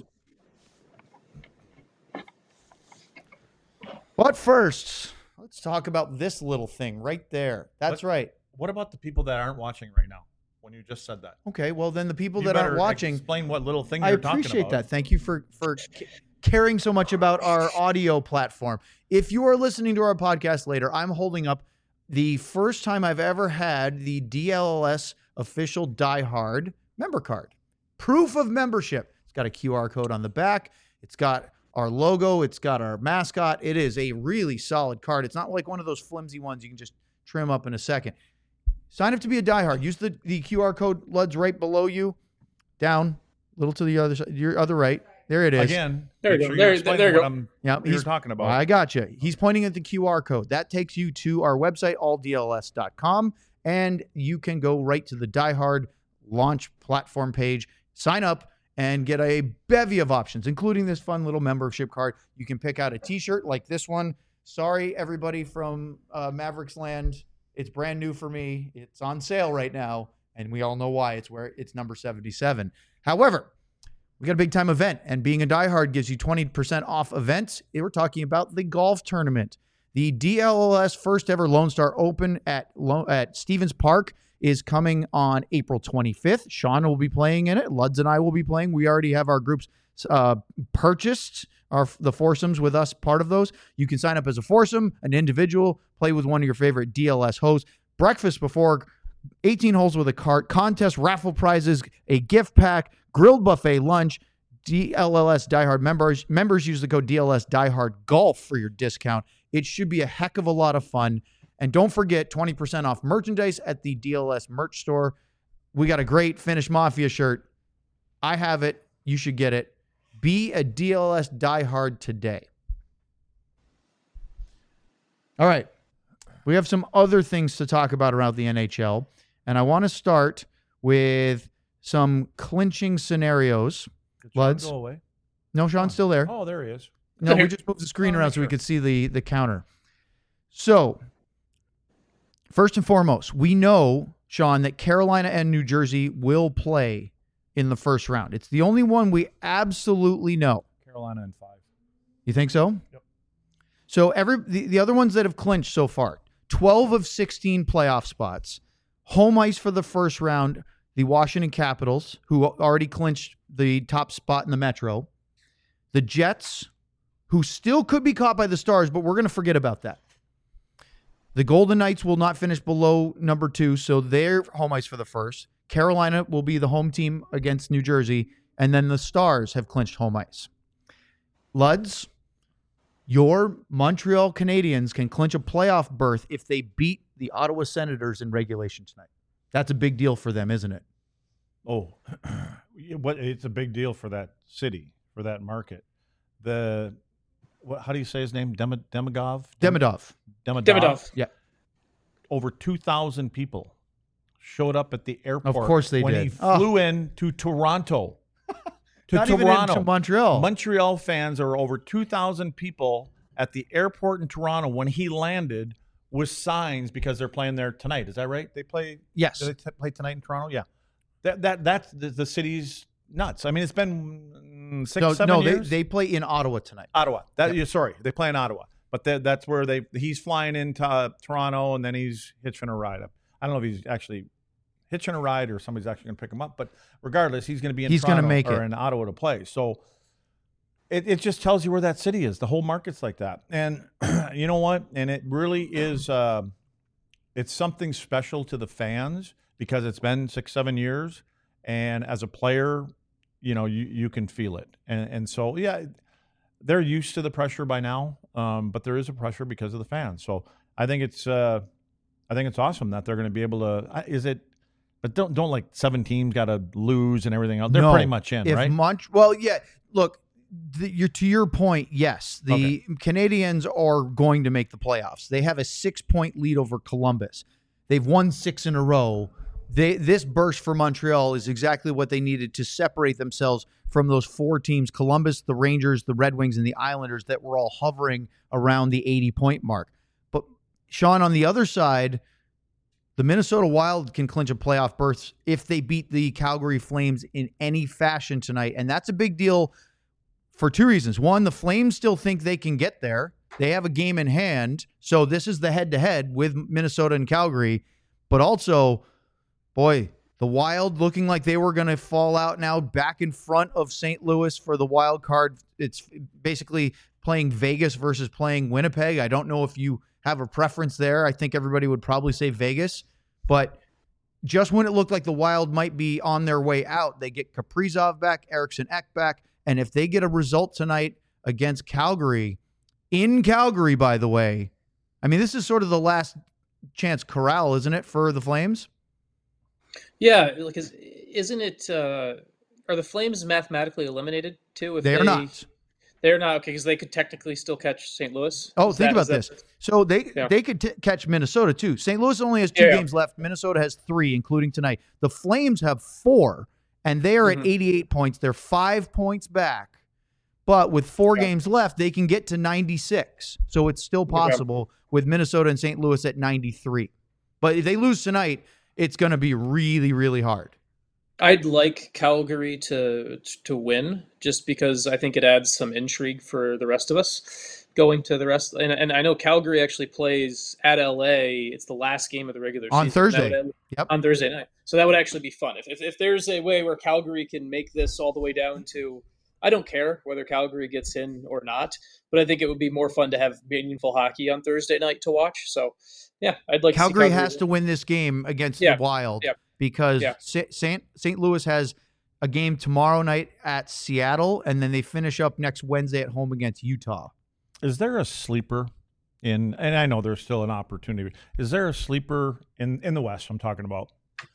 [SPEAKER 1] But first, let's talk about this little thing right there. That's
[SPEAKER 2] What-
[SPEAKER 1] right.
[SPEAKER 2] What about the people that aren't watching right now? When you just said that,
[SPEAKER 1] Okay. Well, then the people
[SPEAKER 2] You
[SPEAKER 1] that aren't
[SPEAKER 2] better
[SPEAKER 1] watching,
[SPEAKER 2] explain what little thing
[SPEAKER 1] I
[SPEAKER 2] you're talking
[SPEAKER 1] appreciate
[SPEAKER 2] about.
[SPEAKER 1] that. Thank you for for c- caring so much about our audio platform. If you are listening to our podcast later, I'm holding up the first time I've ever had the D L S official Die Hard member card. Proof of membership. It's got a Q R code on the back. It's got our logo. It's got our mascot. It is a really solid card. It's not like one of those flimsy ones you can just trim up in a second. Sign up to be a diehard. Use the, the Q R code, Luds, right below you. Down, a little to the other side, your other right. There it is.
[SPEAKER 2] Again,
[SPEAKER 3] There you
[SPEAKER 2] make
[SPEAKER 3] go.
[SPEAKER 2] sure
[SPEAKER 3] There-
[SPEAKER 2] explain
[SPEAKER 3] there you
[SPEAKER 2] what
[SPEAKER 3] go.
[SPEAKER 2] I'm,
[SPEAKER 1] Yeah,
[SPEAKER 2] what you're
[SPEAKER 1] he's
[SPEAKER 2] talking about.
[SPEAKER 1] I got you. He's pointing at the Q R code. That takes you to our website, all D L S dot com, and you can go right to the Die Hard launch platform page, sign up, and get a bevy of options, including this fun little membership card. You can pick out a T-shirt like this one. Sorry, everybody from uh, Mavericks Land. It's brand new for me. It's on sale right now, and we all know why. It's where it's number seventy-seven. However, we got a big time event, and being a diehard gives you twenty percent off events. We're talking about the golf tournament. The D L S first ever Lone Star Open at Lo- at Stevens Park is coming on April twenty-fifth. Sean will be playing in it. Luds and I will be playing. We already have our groups uh, purchased, our the foursomes with us, part of those. You can sign up as a foursome, an individual, play with one of your favorite D L S hosts. Breakfast before, eighteen holes with a cart, contest, raffle prizes, a gift pack, grilled buffet lunch. D L S Diehard members members use the code D L S Diehard Golf for your discount. It should be a heck of a lot of fun. And don't forget twenty percent off merchandise at the D L S merch store. We got a great Finnish Mafia shirt. I have it. You should get it. Be a D L S diehard today. All right. We have some other things to talk about around the N H L. And I want to start with some clinching scenarios.
[SPEAKER 2] Did Sean
[SPEAKER 1] Luds?
[SPEAKER 2] go away?
[SPEAKER 1] No, Sean's still there.
[SPEAKER 2] Oh, there he is.
[SPEAKER 1] No, we just moved the screen
[SPEAKER 2] Oh,
[SPEAKER 1] around
[SPEAKER 2] make
[SPEAKER 1] so we
[SPEAKER 2] sure.
[SPEAKER 1] could see the, the counter. So, first and foremost, we know, Sean, that Carolina and New Jersey will play in the first round. It's the only one we absolutely know.
[SPEAKER 2] Carolina in five.
[SPEAKER 1] You think so?
[SPEAKER 2] Yep.
[SPEAKER 1] So every the, the other ones that have clinched so far, twelve of sixteen playoff spots. Home ice for the first round, the Washington Capitals, who already clinched the top spot in the Metro. The Jets, who still could be caught by the Stars, but we're going to forget about that. The Golden Knights will not finish below number two, so they're home ice for the first. Carolina will be the home team against New Jersey, and then the Stars have clinched home ice. Luds, your Montreal Canadiens can clinch a playoff berth if they beat the Ottawa Senators in regulation tonight. That's a big deal for them, isn't it?
[SPEAKER 2] Oh, what? It's a big deal for that city, for that market. The what, how do you say his name? Dem- Demidov?
[SPEAKER 1] Demidov.
[SPEAKER 2] Demidov.
[SPEAKER 3] Demidov.
[SPEAKER 1] Yeah.
[SPEAKER 2] Over two thousand people showed up at the airport.
[SPEAKER 1] Of course they
[SPEAKER 2] when
[SPEAKER 1] did.
[SPEAKER 2] he flew in to Toronto. to
[SPEAKER 1] Not even
[SPEAKER 2] Toronto.
[SPEAKER 1] into Montreal.
[SPEAKER 2] Montreal fans, are over two thousand people at the airport in Toronto when he landed with signs because they're playing there tonight. Is that right? They play.
[SPEAKER 1] Yes.
[SPEAKER 2] Do they t- play tonight in Toronto? Yeah. That that that's the, the city's nuts. I mean, it's been mm, six,
[SPEAKER 1] no,
[SPEAKER 2] seven
[SPEAKER 1] no,
[SPEAKER 2] years.
[SPEAKER 1] they they play in Ottawa tonight.
[SPEAKER 2] Ottawa. That
[SPEAKER 1] Yep.
[SPEAKER 2] yeah, sorry, they play in Ottawa, but that, that's where they he's flying into uh, Toronto and then he's hitching a ride up. I don't know if he's actually hitching a ride or somebody's actually going to pick him up, but regardless, he's going to be in
[SPEAKER 1] He's gonna
[SPEAKER 2] Toronto
[SPEAKER 1] make
[SPEAKER 2] or
[SPEAKER 1] it.
[SPEAKER 2] in Ottawa to play. So it it just tells you where that city is. The whole market's like that, and you know what? And it really is. Uh, it's something special to the fans because it's been six, seven years, and as a player, you know, you, you can feel it. And and so, yeah, they're used to the pressure by now, um, but there is a pressure because of the fans. So I think it's uh, I think it's awesome that they're going to be able to. Is it? But don't don't like seven teams got to lose and everything else. They're
[SPEAKER 1] No.
[SPEAKER 2] pretty much in,
[SPEAKER 1] If
[SPEAKER 2] right?
[SPEAKER 1] Mont- well, yeah. Look, the, you're to your point. Yes, the
[SPEAKER 2] Okay.
[SPEAKER 1] Canadians are going to make the playoffs. They have a six point lead over Columbus. They've won six in a row. They this burst for Montreal is exactly what they needed to separate themselves from those four teams: Columbus, the Rangers, the Red Wings, and the Islanders that were all hovering around the eighty point mark. But Sean, on the other side, the Minnesota Wild can clinch a playoff berth if they beat the Calgary Flames in any fashion tonight. And that's a big deal for two reasons. One, the Flames still think they can get there. They have a game in hand. So this is the head-to-head with Minnesota and Calgary. But also, boy, the Wild looking like they were going to fall out now back in front of Saint Louis for the wild card. It's basically playing Vegas versus playing Winnipeg. I don't know if you have a preference there. I think everybody would probably say Vegas. But just when it looked like the Wild might be on their way out, they get Kaprizov back, Eriksson Ek back. And if they get a result tonight against Calgary, in Calgary, by the way, I mean, this is sort of the last chance corral, isn't it, for the Flames?
[SPEAKER 3] Yeah, like is, isn't it? Uh, are the Flames mathematically eliminated too? If
[SPEAKER 1] They are not.
[SPEAKER 3] They're not okay because they could technically still catch Saint Louis.
[SPEAKER 1] Oh,
[SPEAKER 3] Is
[SPEAKER 1] think
[SPEAKER 3] that-
[SPEAKER 1] about
[SPEAKER 3] is that-
[SPEAKER 1] this. So they
[SPEAKER 3] Yeah.
[SPEAKER 1] they could t- catch Minnesota too. Saint Louis only has two
[SPEAKER 3] Yeah.
[SPEAKER 1] games left. Minnesota has three, including tonight. The Flames have four, and they are
[SPEAKER 3] Mhm.
[SPEAKER 1] at eighty-eight points. They're five points back. But with four
[SPEAKER 3] Yeah.
[SPEAKER 1] games left, they can get to ninety-six. So it's still possible with Minnesota and Saint Louis at ninety-three. But if they lose tonight, it's going to be really, really hard.
[SPEAKER 3] I'd like Calgary to to win just because I think it adds some intrigue for the rest of us going to the rest. And, and I know Calgary actually plays at L A. It's the last game of the regular
[SPEAKER 1] On
[SPEAKER 3] season.
[SPEAKER 1] Thursday.
[SPEAKER 3] That would-
[SPEAKER 1] Yep.
[SPEAKER 3] On Thursday night. So that would actually be fun. If, if if there's a way where Calgary can make this all the way down to, I don't care whether Calgary gets in or not, but I think it would be more fun to have meaningful hockey on Thursday night to watch. So yeah, I'd like
[SPEAKER 1] Calgary
[SPEAKER 3] to see
[SPEAKER 1] has to win this game against
[SPEAKER 3] Yeah.
[SPEAKER 1] the Wild
[SPEAKER 3] Yeah.
[SPEAKER 1] because
[SPEAKER 3] Yeah.
[SPEAKER 1] Sa- Saint Saint Louis has a game tomorrow night at Seattle, and then they finish up next Wednesday at home against Utah.
[SPEAKER 2] Is there a sleeper in? And I know there's still an opportunity. Is there a sleeper in in the West? I'm talking about.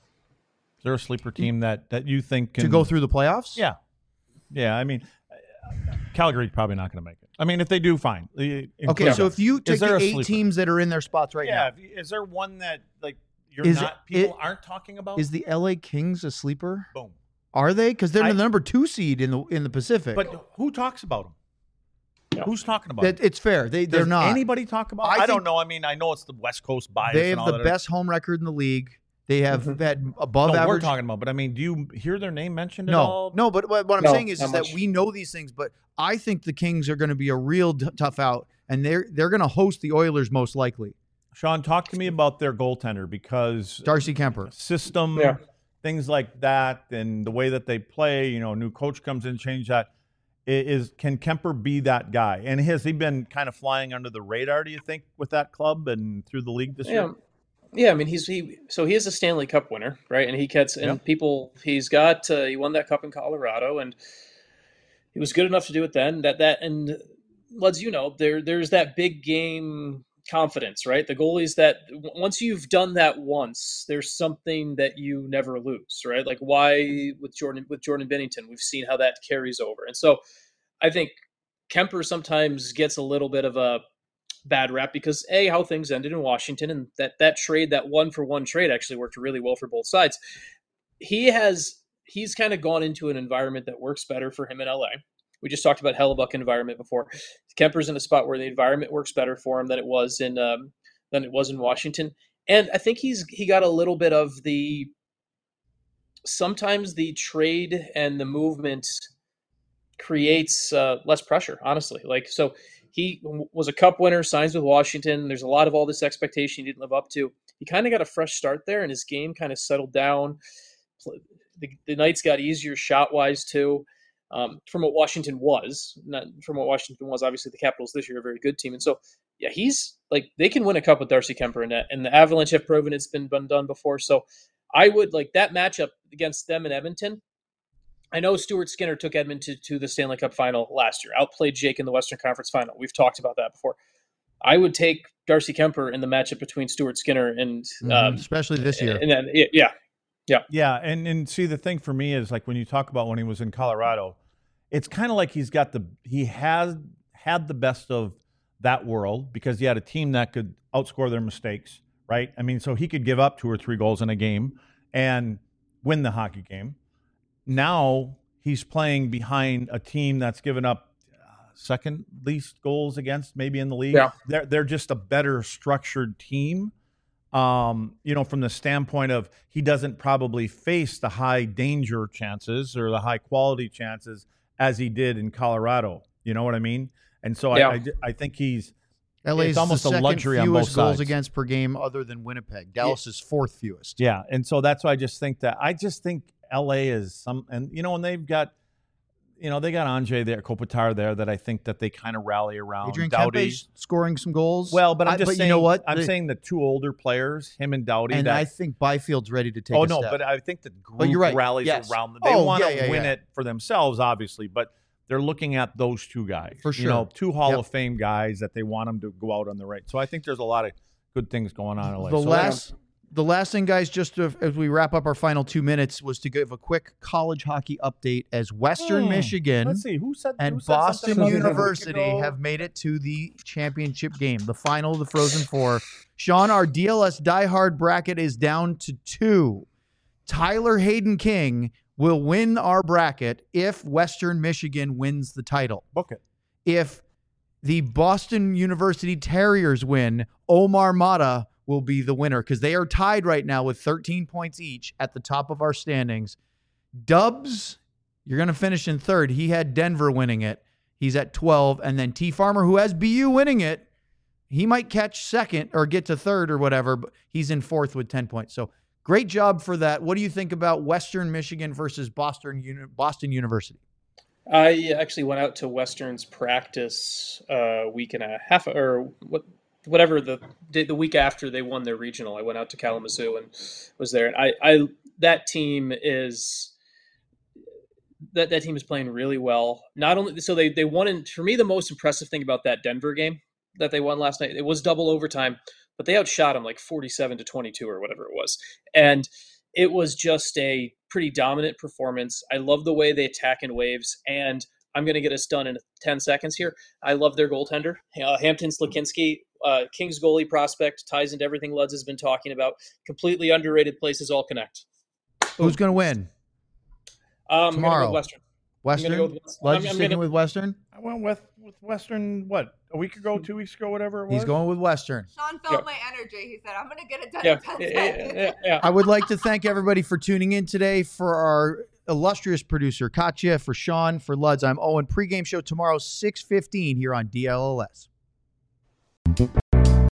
[SPEAKER 2] Is there a sleeper team that that you think can
[SPEAKER 1] To go through the playoffs?
[SPEAKER 2] Yeah, yeah. I mean, Calgary's probably not going to make it. I mean, if they do, fine.
[SPEAKER 1] Okay,
[SPEAKER 2] Include
[SPEAKER 1] so
[SPEAKER 2] them.
[SPEAKER 1] if you take
[SPEAKER 2] there
[SPEAKER 1] the
[SPEAKER 2] a
[SPEAKER 1] eight
[SPEAKER 2] sleeper?
[SPEAKER 1] teams that are in their spots right
[SPEAKER 2] yeah,
[SPEAKER 1] now,
[SPEAKER 2] if you- is there one that like you're
[SPEAKER 1] Is
[SPEAKER 2] not
[SPEAKER 1] it-
[SPEAKER 2] people
[SPEAKER 1] it-
[SPEAKER 2] aren't talking about?
[SPEAKER 1] is the L A Kings a sleeper?
[SPEAKER 2] Boom.
[SPEAKER 1] Are they? Because they're
[SPEAKER 2] I-
[SPEAKER 1] the number two seed in the in the Pacific.
[SPEAKER 2] But who talks about them?
[SPEAKER 3] Yeah.
[SPEAKER 2] Who's talking about
[SPEAKER 1] That-
[SPEAKER 2] them?
[SPEAKER 1] it's fair. They they're
[SPEAKER 2] Does
[SPEAKER 1] not.
[SPEAKER 2] anybody talk about?
[SPEAKER 1] I
[SPEAKER 2] I, don't
[SPEAKER 1] think-
[SPEAKER 2] know. I mean, I know it's the West Coast bias.
[SPEAKER 1] They
[SPEAKER 2] and
[SPEAKER 1] have
[SPEAKER 2] all
[SPEAKER 1] the
[SPEAKER 2] that.
[SPEAKER 1] best home record in the league. They have had above
[SPEAKER 2] No, we're
[SPEAKER 1] average.
[SPEAKER 2] talking about. But I mean, do you hear their name mentioned at
[SPEAKER 1] No,
[SPEAKER 2] all?
[SPEAKER 1] no, but what what I'm
[SPEAKER 3] No,
[SPEAKER 1] saying is,
[SPEAKER 3] not
[SPEAKER 1] is that
[SPEAKER 3] much.
[SPEAKER 1] we know these things, but I think the Kings are going to be a real t- tough out, and they're they're going to host the Oilers most likely.
[SPEAKER 2] Sean, talk to me about their goaltender because
[SPEAKER 1] Darcy Kemper.
[SPEAKER 2] system,
[SPEAKER 3] Yeah.
[SPEAKER 2] things like that, and the way that they play. You know, new coach comes in, change that. I- Is can Kemper be that guy? And has he been kind of flying under the radar? Do you think with that club and through the league this
[SPEAKER 3] Yeah,
[SPEAKER 2] year?
[SPEAKER 3] yeah. I mean, he's he. So he is a Stanley Cup winner, right? And he gets and
[SPEAKER 2] Yeah.
[SPEAKER 3] people. He's got. Uh, he won that cup in Colorado, and he was good enough to do it then. That that and let's you know there there's that big game confidence, right? The goalies that w- once you've done that once, there's something that you never lose, right? Like why with Jordan with Jordan Bennington, we've seen how that carries over, and so I think Kemper sometimes gets a little bit of a bad rap because A, how things ended in Washington, and that that trade, that one for one trade actually worked really well for both sides. He has, he's kind of gone into an environment that works better for him in L A. We just talked about Hellebuck environment before. Kemper's in a spot where the environment works better for him than it was in, um, than it was in Washington. And I think he's, he got a little bit of the, sometimes the trade and the movement creates uh, less pressure, honestly. Like, so he was a cup winner, signs with Washington. There's a lot of all this expectation he didn't live up to. He kind of got a fresh start there, and his game kind of settled down. The, the nights got easier shot-wise, too, um, from what Washington was. Not from what Washington was. Obviously, the Capitals this year are a very good team. And so, yeah, he's like, they can win a cup with Darcy Kuemper, and, that, and the Avalanche have proven it's been done before. So I would like that matchup against them in Edmonton. I know Stuart Skinner took Edmonton to, to the Stanley Cup final last year, outplayed Jake in the Western Conference final. We've talked about that before. I would take Darcy Kuemper in the matchup between Stuart Skinner and
[SPEAKER 1] mm-hmm.
[SPEAKER 3] um,
[SPEAKER 1] especially this year.
[SPEAKER 3] And then, yeah, yeah,
[SPEAKER 2] yeah. And and see, the thing for me is like when you talk about when he was in Colorado, it's kind of like he's got the he has had the best of that world because he had a team that could outscore their mistakes, right? I mean, so he could give up two or three goals in a game and win the hockey game. Now he's playing behind a team that's given up uh, second least goals against maybe in the league.
[SPEAKER 3] Yeah.
[SPEAKER 2] They're they're just a better structured team. Um, you know, from the standpoint of he doesn't probably face the high danger chances or the high quality chances as he did in Colorado. You know what I mean? And so
[SPEAKER 3] yeah.
[SPEAKER 2] I, I I think he's
[SPEAKER 1] L A's
[SPEAKER 2] it's almost
[SPEAKER 1] the
[SPEAKER 2] a
[SPEAKER 1] second
[SPEAKER 2] luxury on
[SPEAKER 1] fewest
[SPEAKER 2] both
[SPEAKER 1] goals
[SPEAKER 2] sides.
[SPEAKER 1] against per game other than Winnipeg. Dallas is fourth fewest.
[SPEAKER 2] Yeah, and so that's why I just think that I just think L A is some, and you know, and they've got, you know, they got Anjay there, Kopitar there, that I think that they kind of rally around.
[SPEAKER 1] Adrian
[SPEAKER 2] Doughty
[SPEAKER 1] Kempe's scoring some goals.
[SPEAKER 2] Well, but I'm
[SPEAKER 1] I-
[SPEAKER 2] just
[SPEAKER 1] but
[SPEAKER 2] saying,
[SPEAKER 1] you know what?
[SPEAKER 2] I'm
[SPEAKER 1] The-
[SPEAKER 2] saying the two older players, him and Doughty.
[SPEAKER 1] and
[SPEAKER 2] that,
[SPEAKER 1] I think Byfield's ready to take
[SPEAKER 2] oh
[SPEAKER 1] a
[SPEAKER 2] no,
[SPEAKER 1] step.
[SPEAKER 2] but I think the group
[SPEAKER 1] But you're right.
[SPEAKER 2] rallies
[SPEAKER 1] Yes.
[SPEAKER 2] around them. They
[SPEAKER 1] Oh,
[SPEAKER 2] want to
[SPEAKER 1] yeah, yeah,
[SPEAKER 2] win
[SPEAKER 1] yeah.
[SPEAKER 2] it for themselves, obviously, but they're looking at those two guys.
[SPEAKER 1] For
[SPEAKER 2] You know,
[SPEAKER 1] sure.
[SPEAKER 2] two Hall
[SPEAKER 1] Yep.
[SPEAKER 2] of Fame guys that they want them to go out on the right. So I think there's a lot of good things going on in L A.
[SPEAKER 1] The
[SPEAKER 2] So
[SPEAKER 1] last, the last thing, guys, just to, as we wrap up our final two minutes, was to give a quick college hockey update as Western
[SPEAKER 2] Hmm.
[SPEAKER 1] Michigan
[SPEAKER 2] let's see who said
[SPEAKER 1] and
[SPEAKER 2] who said something
[SPEAKER 1] Boston
[SPEAKER 2] about it a week
[SPEAKER 1] University
[SPEAKER 2] ago?
[SPEAKER 1] have made it to the championship game, the final of the Frozen Four. Sean, our D L S diehard bracket is down to two. Tyler Hayden King will win our bracket if Western Michigan wins the title.
[SPEAKER 2] book it.
[SPEAKER 1] If the Boston University Terriers win, Omar Mata will be the winner because they are tied right now with thirteen points each at the top of our standings. Dubs, you're going to finish in third. He had Denver winning it. He's at twelve. And then T. Farmer, who has B U winning it, he might catch second or get to third or whatever, but he's in fourth with ten points. So great job for that. What do you think about Western Michigan versus Boston Uni- Boston University?
[SPEAKER 3] I actually went out to Western's practice a week and a half, or what, whatever the the week after they won their regional. I went out to Kalamazoo and was there. And I, I that team is that that team is playing really well. Not only so they they won. In, for me, the most impressive thing about that Denver game that they won last night, it was double overtime, but they outshot them like forty-seven to twenty-two or whatever it was, and it was just a pretty dominant performance. I love the way they attack in waves, and I'm going to get us done in ten seconds here. I love their goaltender, uh, Hampton Slakinski, uh, Kings goalie prospect, ties into everything Luds has been talking about. Completely underrated. Places all connect.
[SPEAKER 1] Who's going to win?
[SPEAKER 3] Um,
[SPEAKER 1] Tomorrow.
[SPEAKER 3] I'm going to go with Western.
[SPEAKER 1] Western?
[SPEAKER 3] I'm gonna go with-
[SPEAKER 1] Luds
[SPEAKER 3] I'm-
[SPEAKER 1] is
[SPEAKER 3] I'm
[SPEAKER 1] sticking
[SPEAKER 3] gonna-
[SPEAKER 1] with Western?
[SPEAKER 2] I went with with Western what a week ago, two weeks ago, whatever it was.
[SPEAKER 1] He's going with Western.
[SPEAKER 4] Sean felt
[SPEAKER 3] Yeah.
[SPEAKER 4] my energy. He said, I'm going to get it done
[SPEAKER 3] Yeah,
[SPEAKER 4] in ten
[SPEAKER 3] yeah,
[SPEAKER 4] seconds.
[SPEAKER 3] yeah, yeah.
[SPEAKER 1] I would like to thank everybody for tuning in today. For our illustrious producer, Katya, for Sean, for Luds, I'm Owen. Pre-game show tomorrow, six fifteen here on D L L S.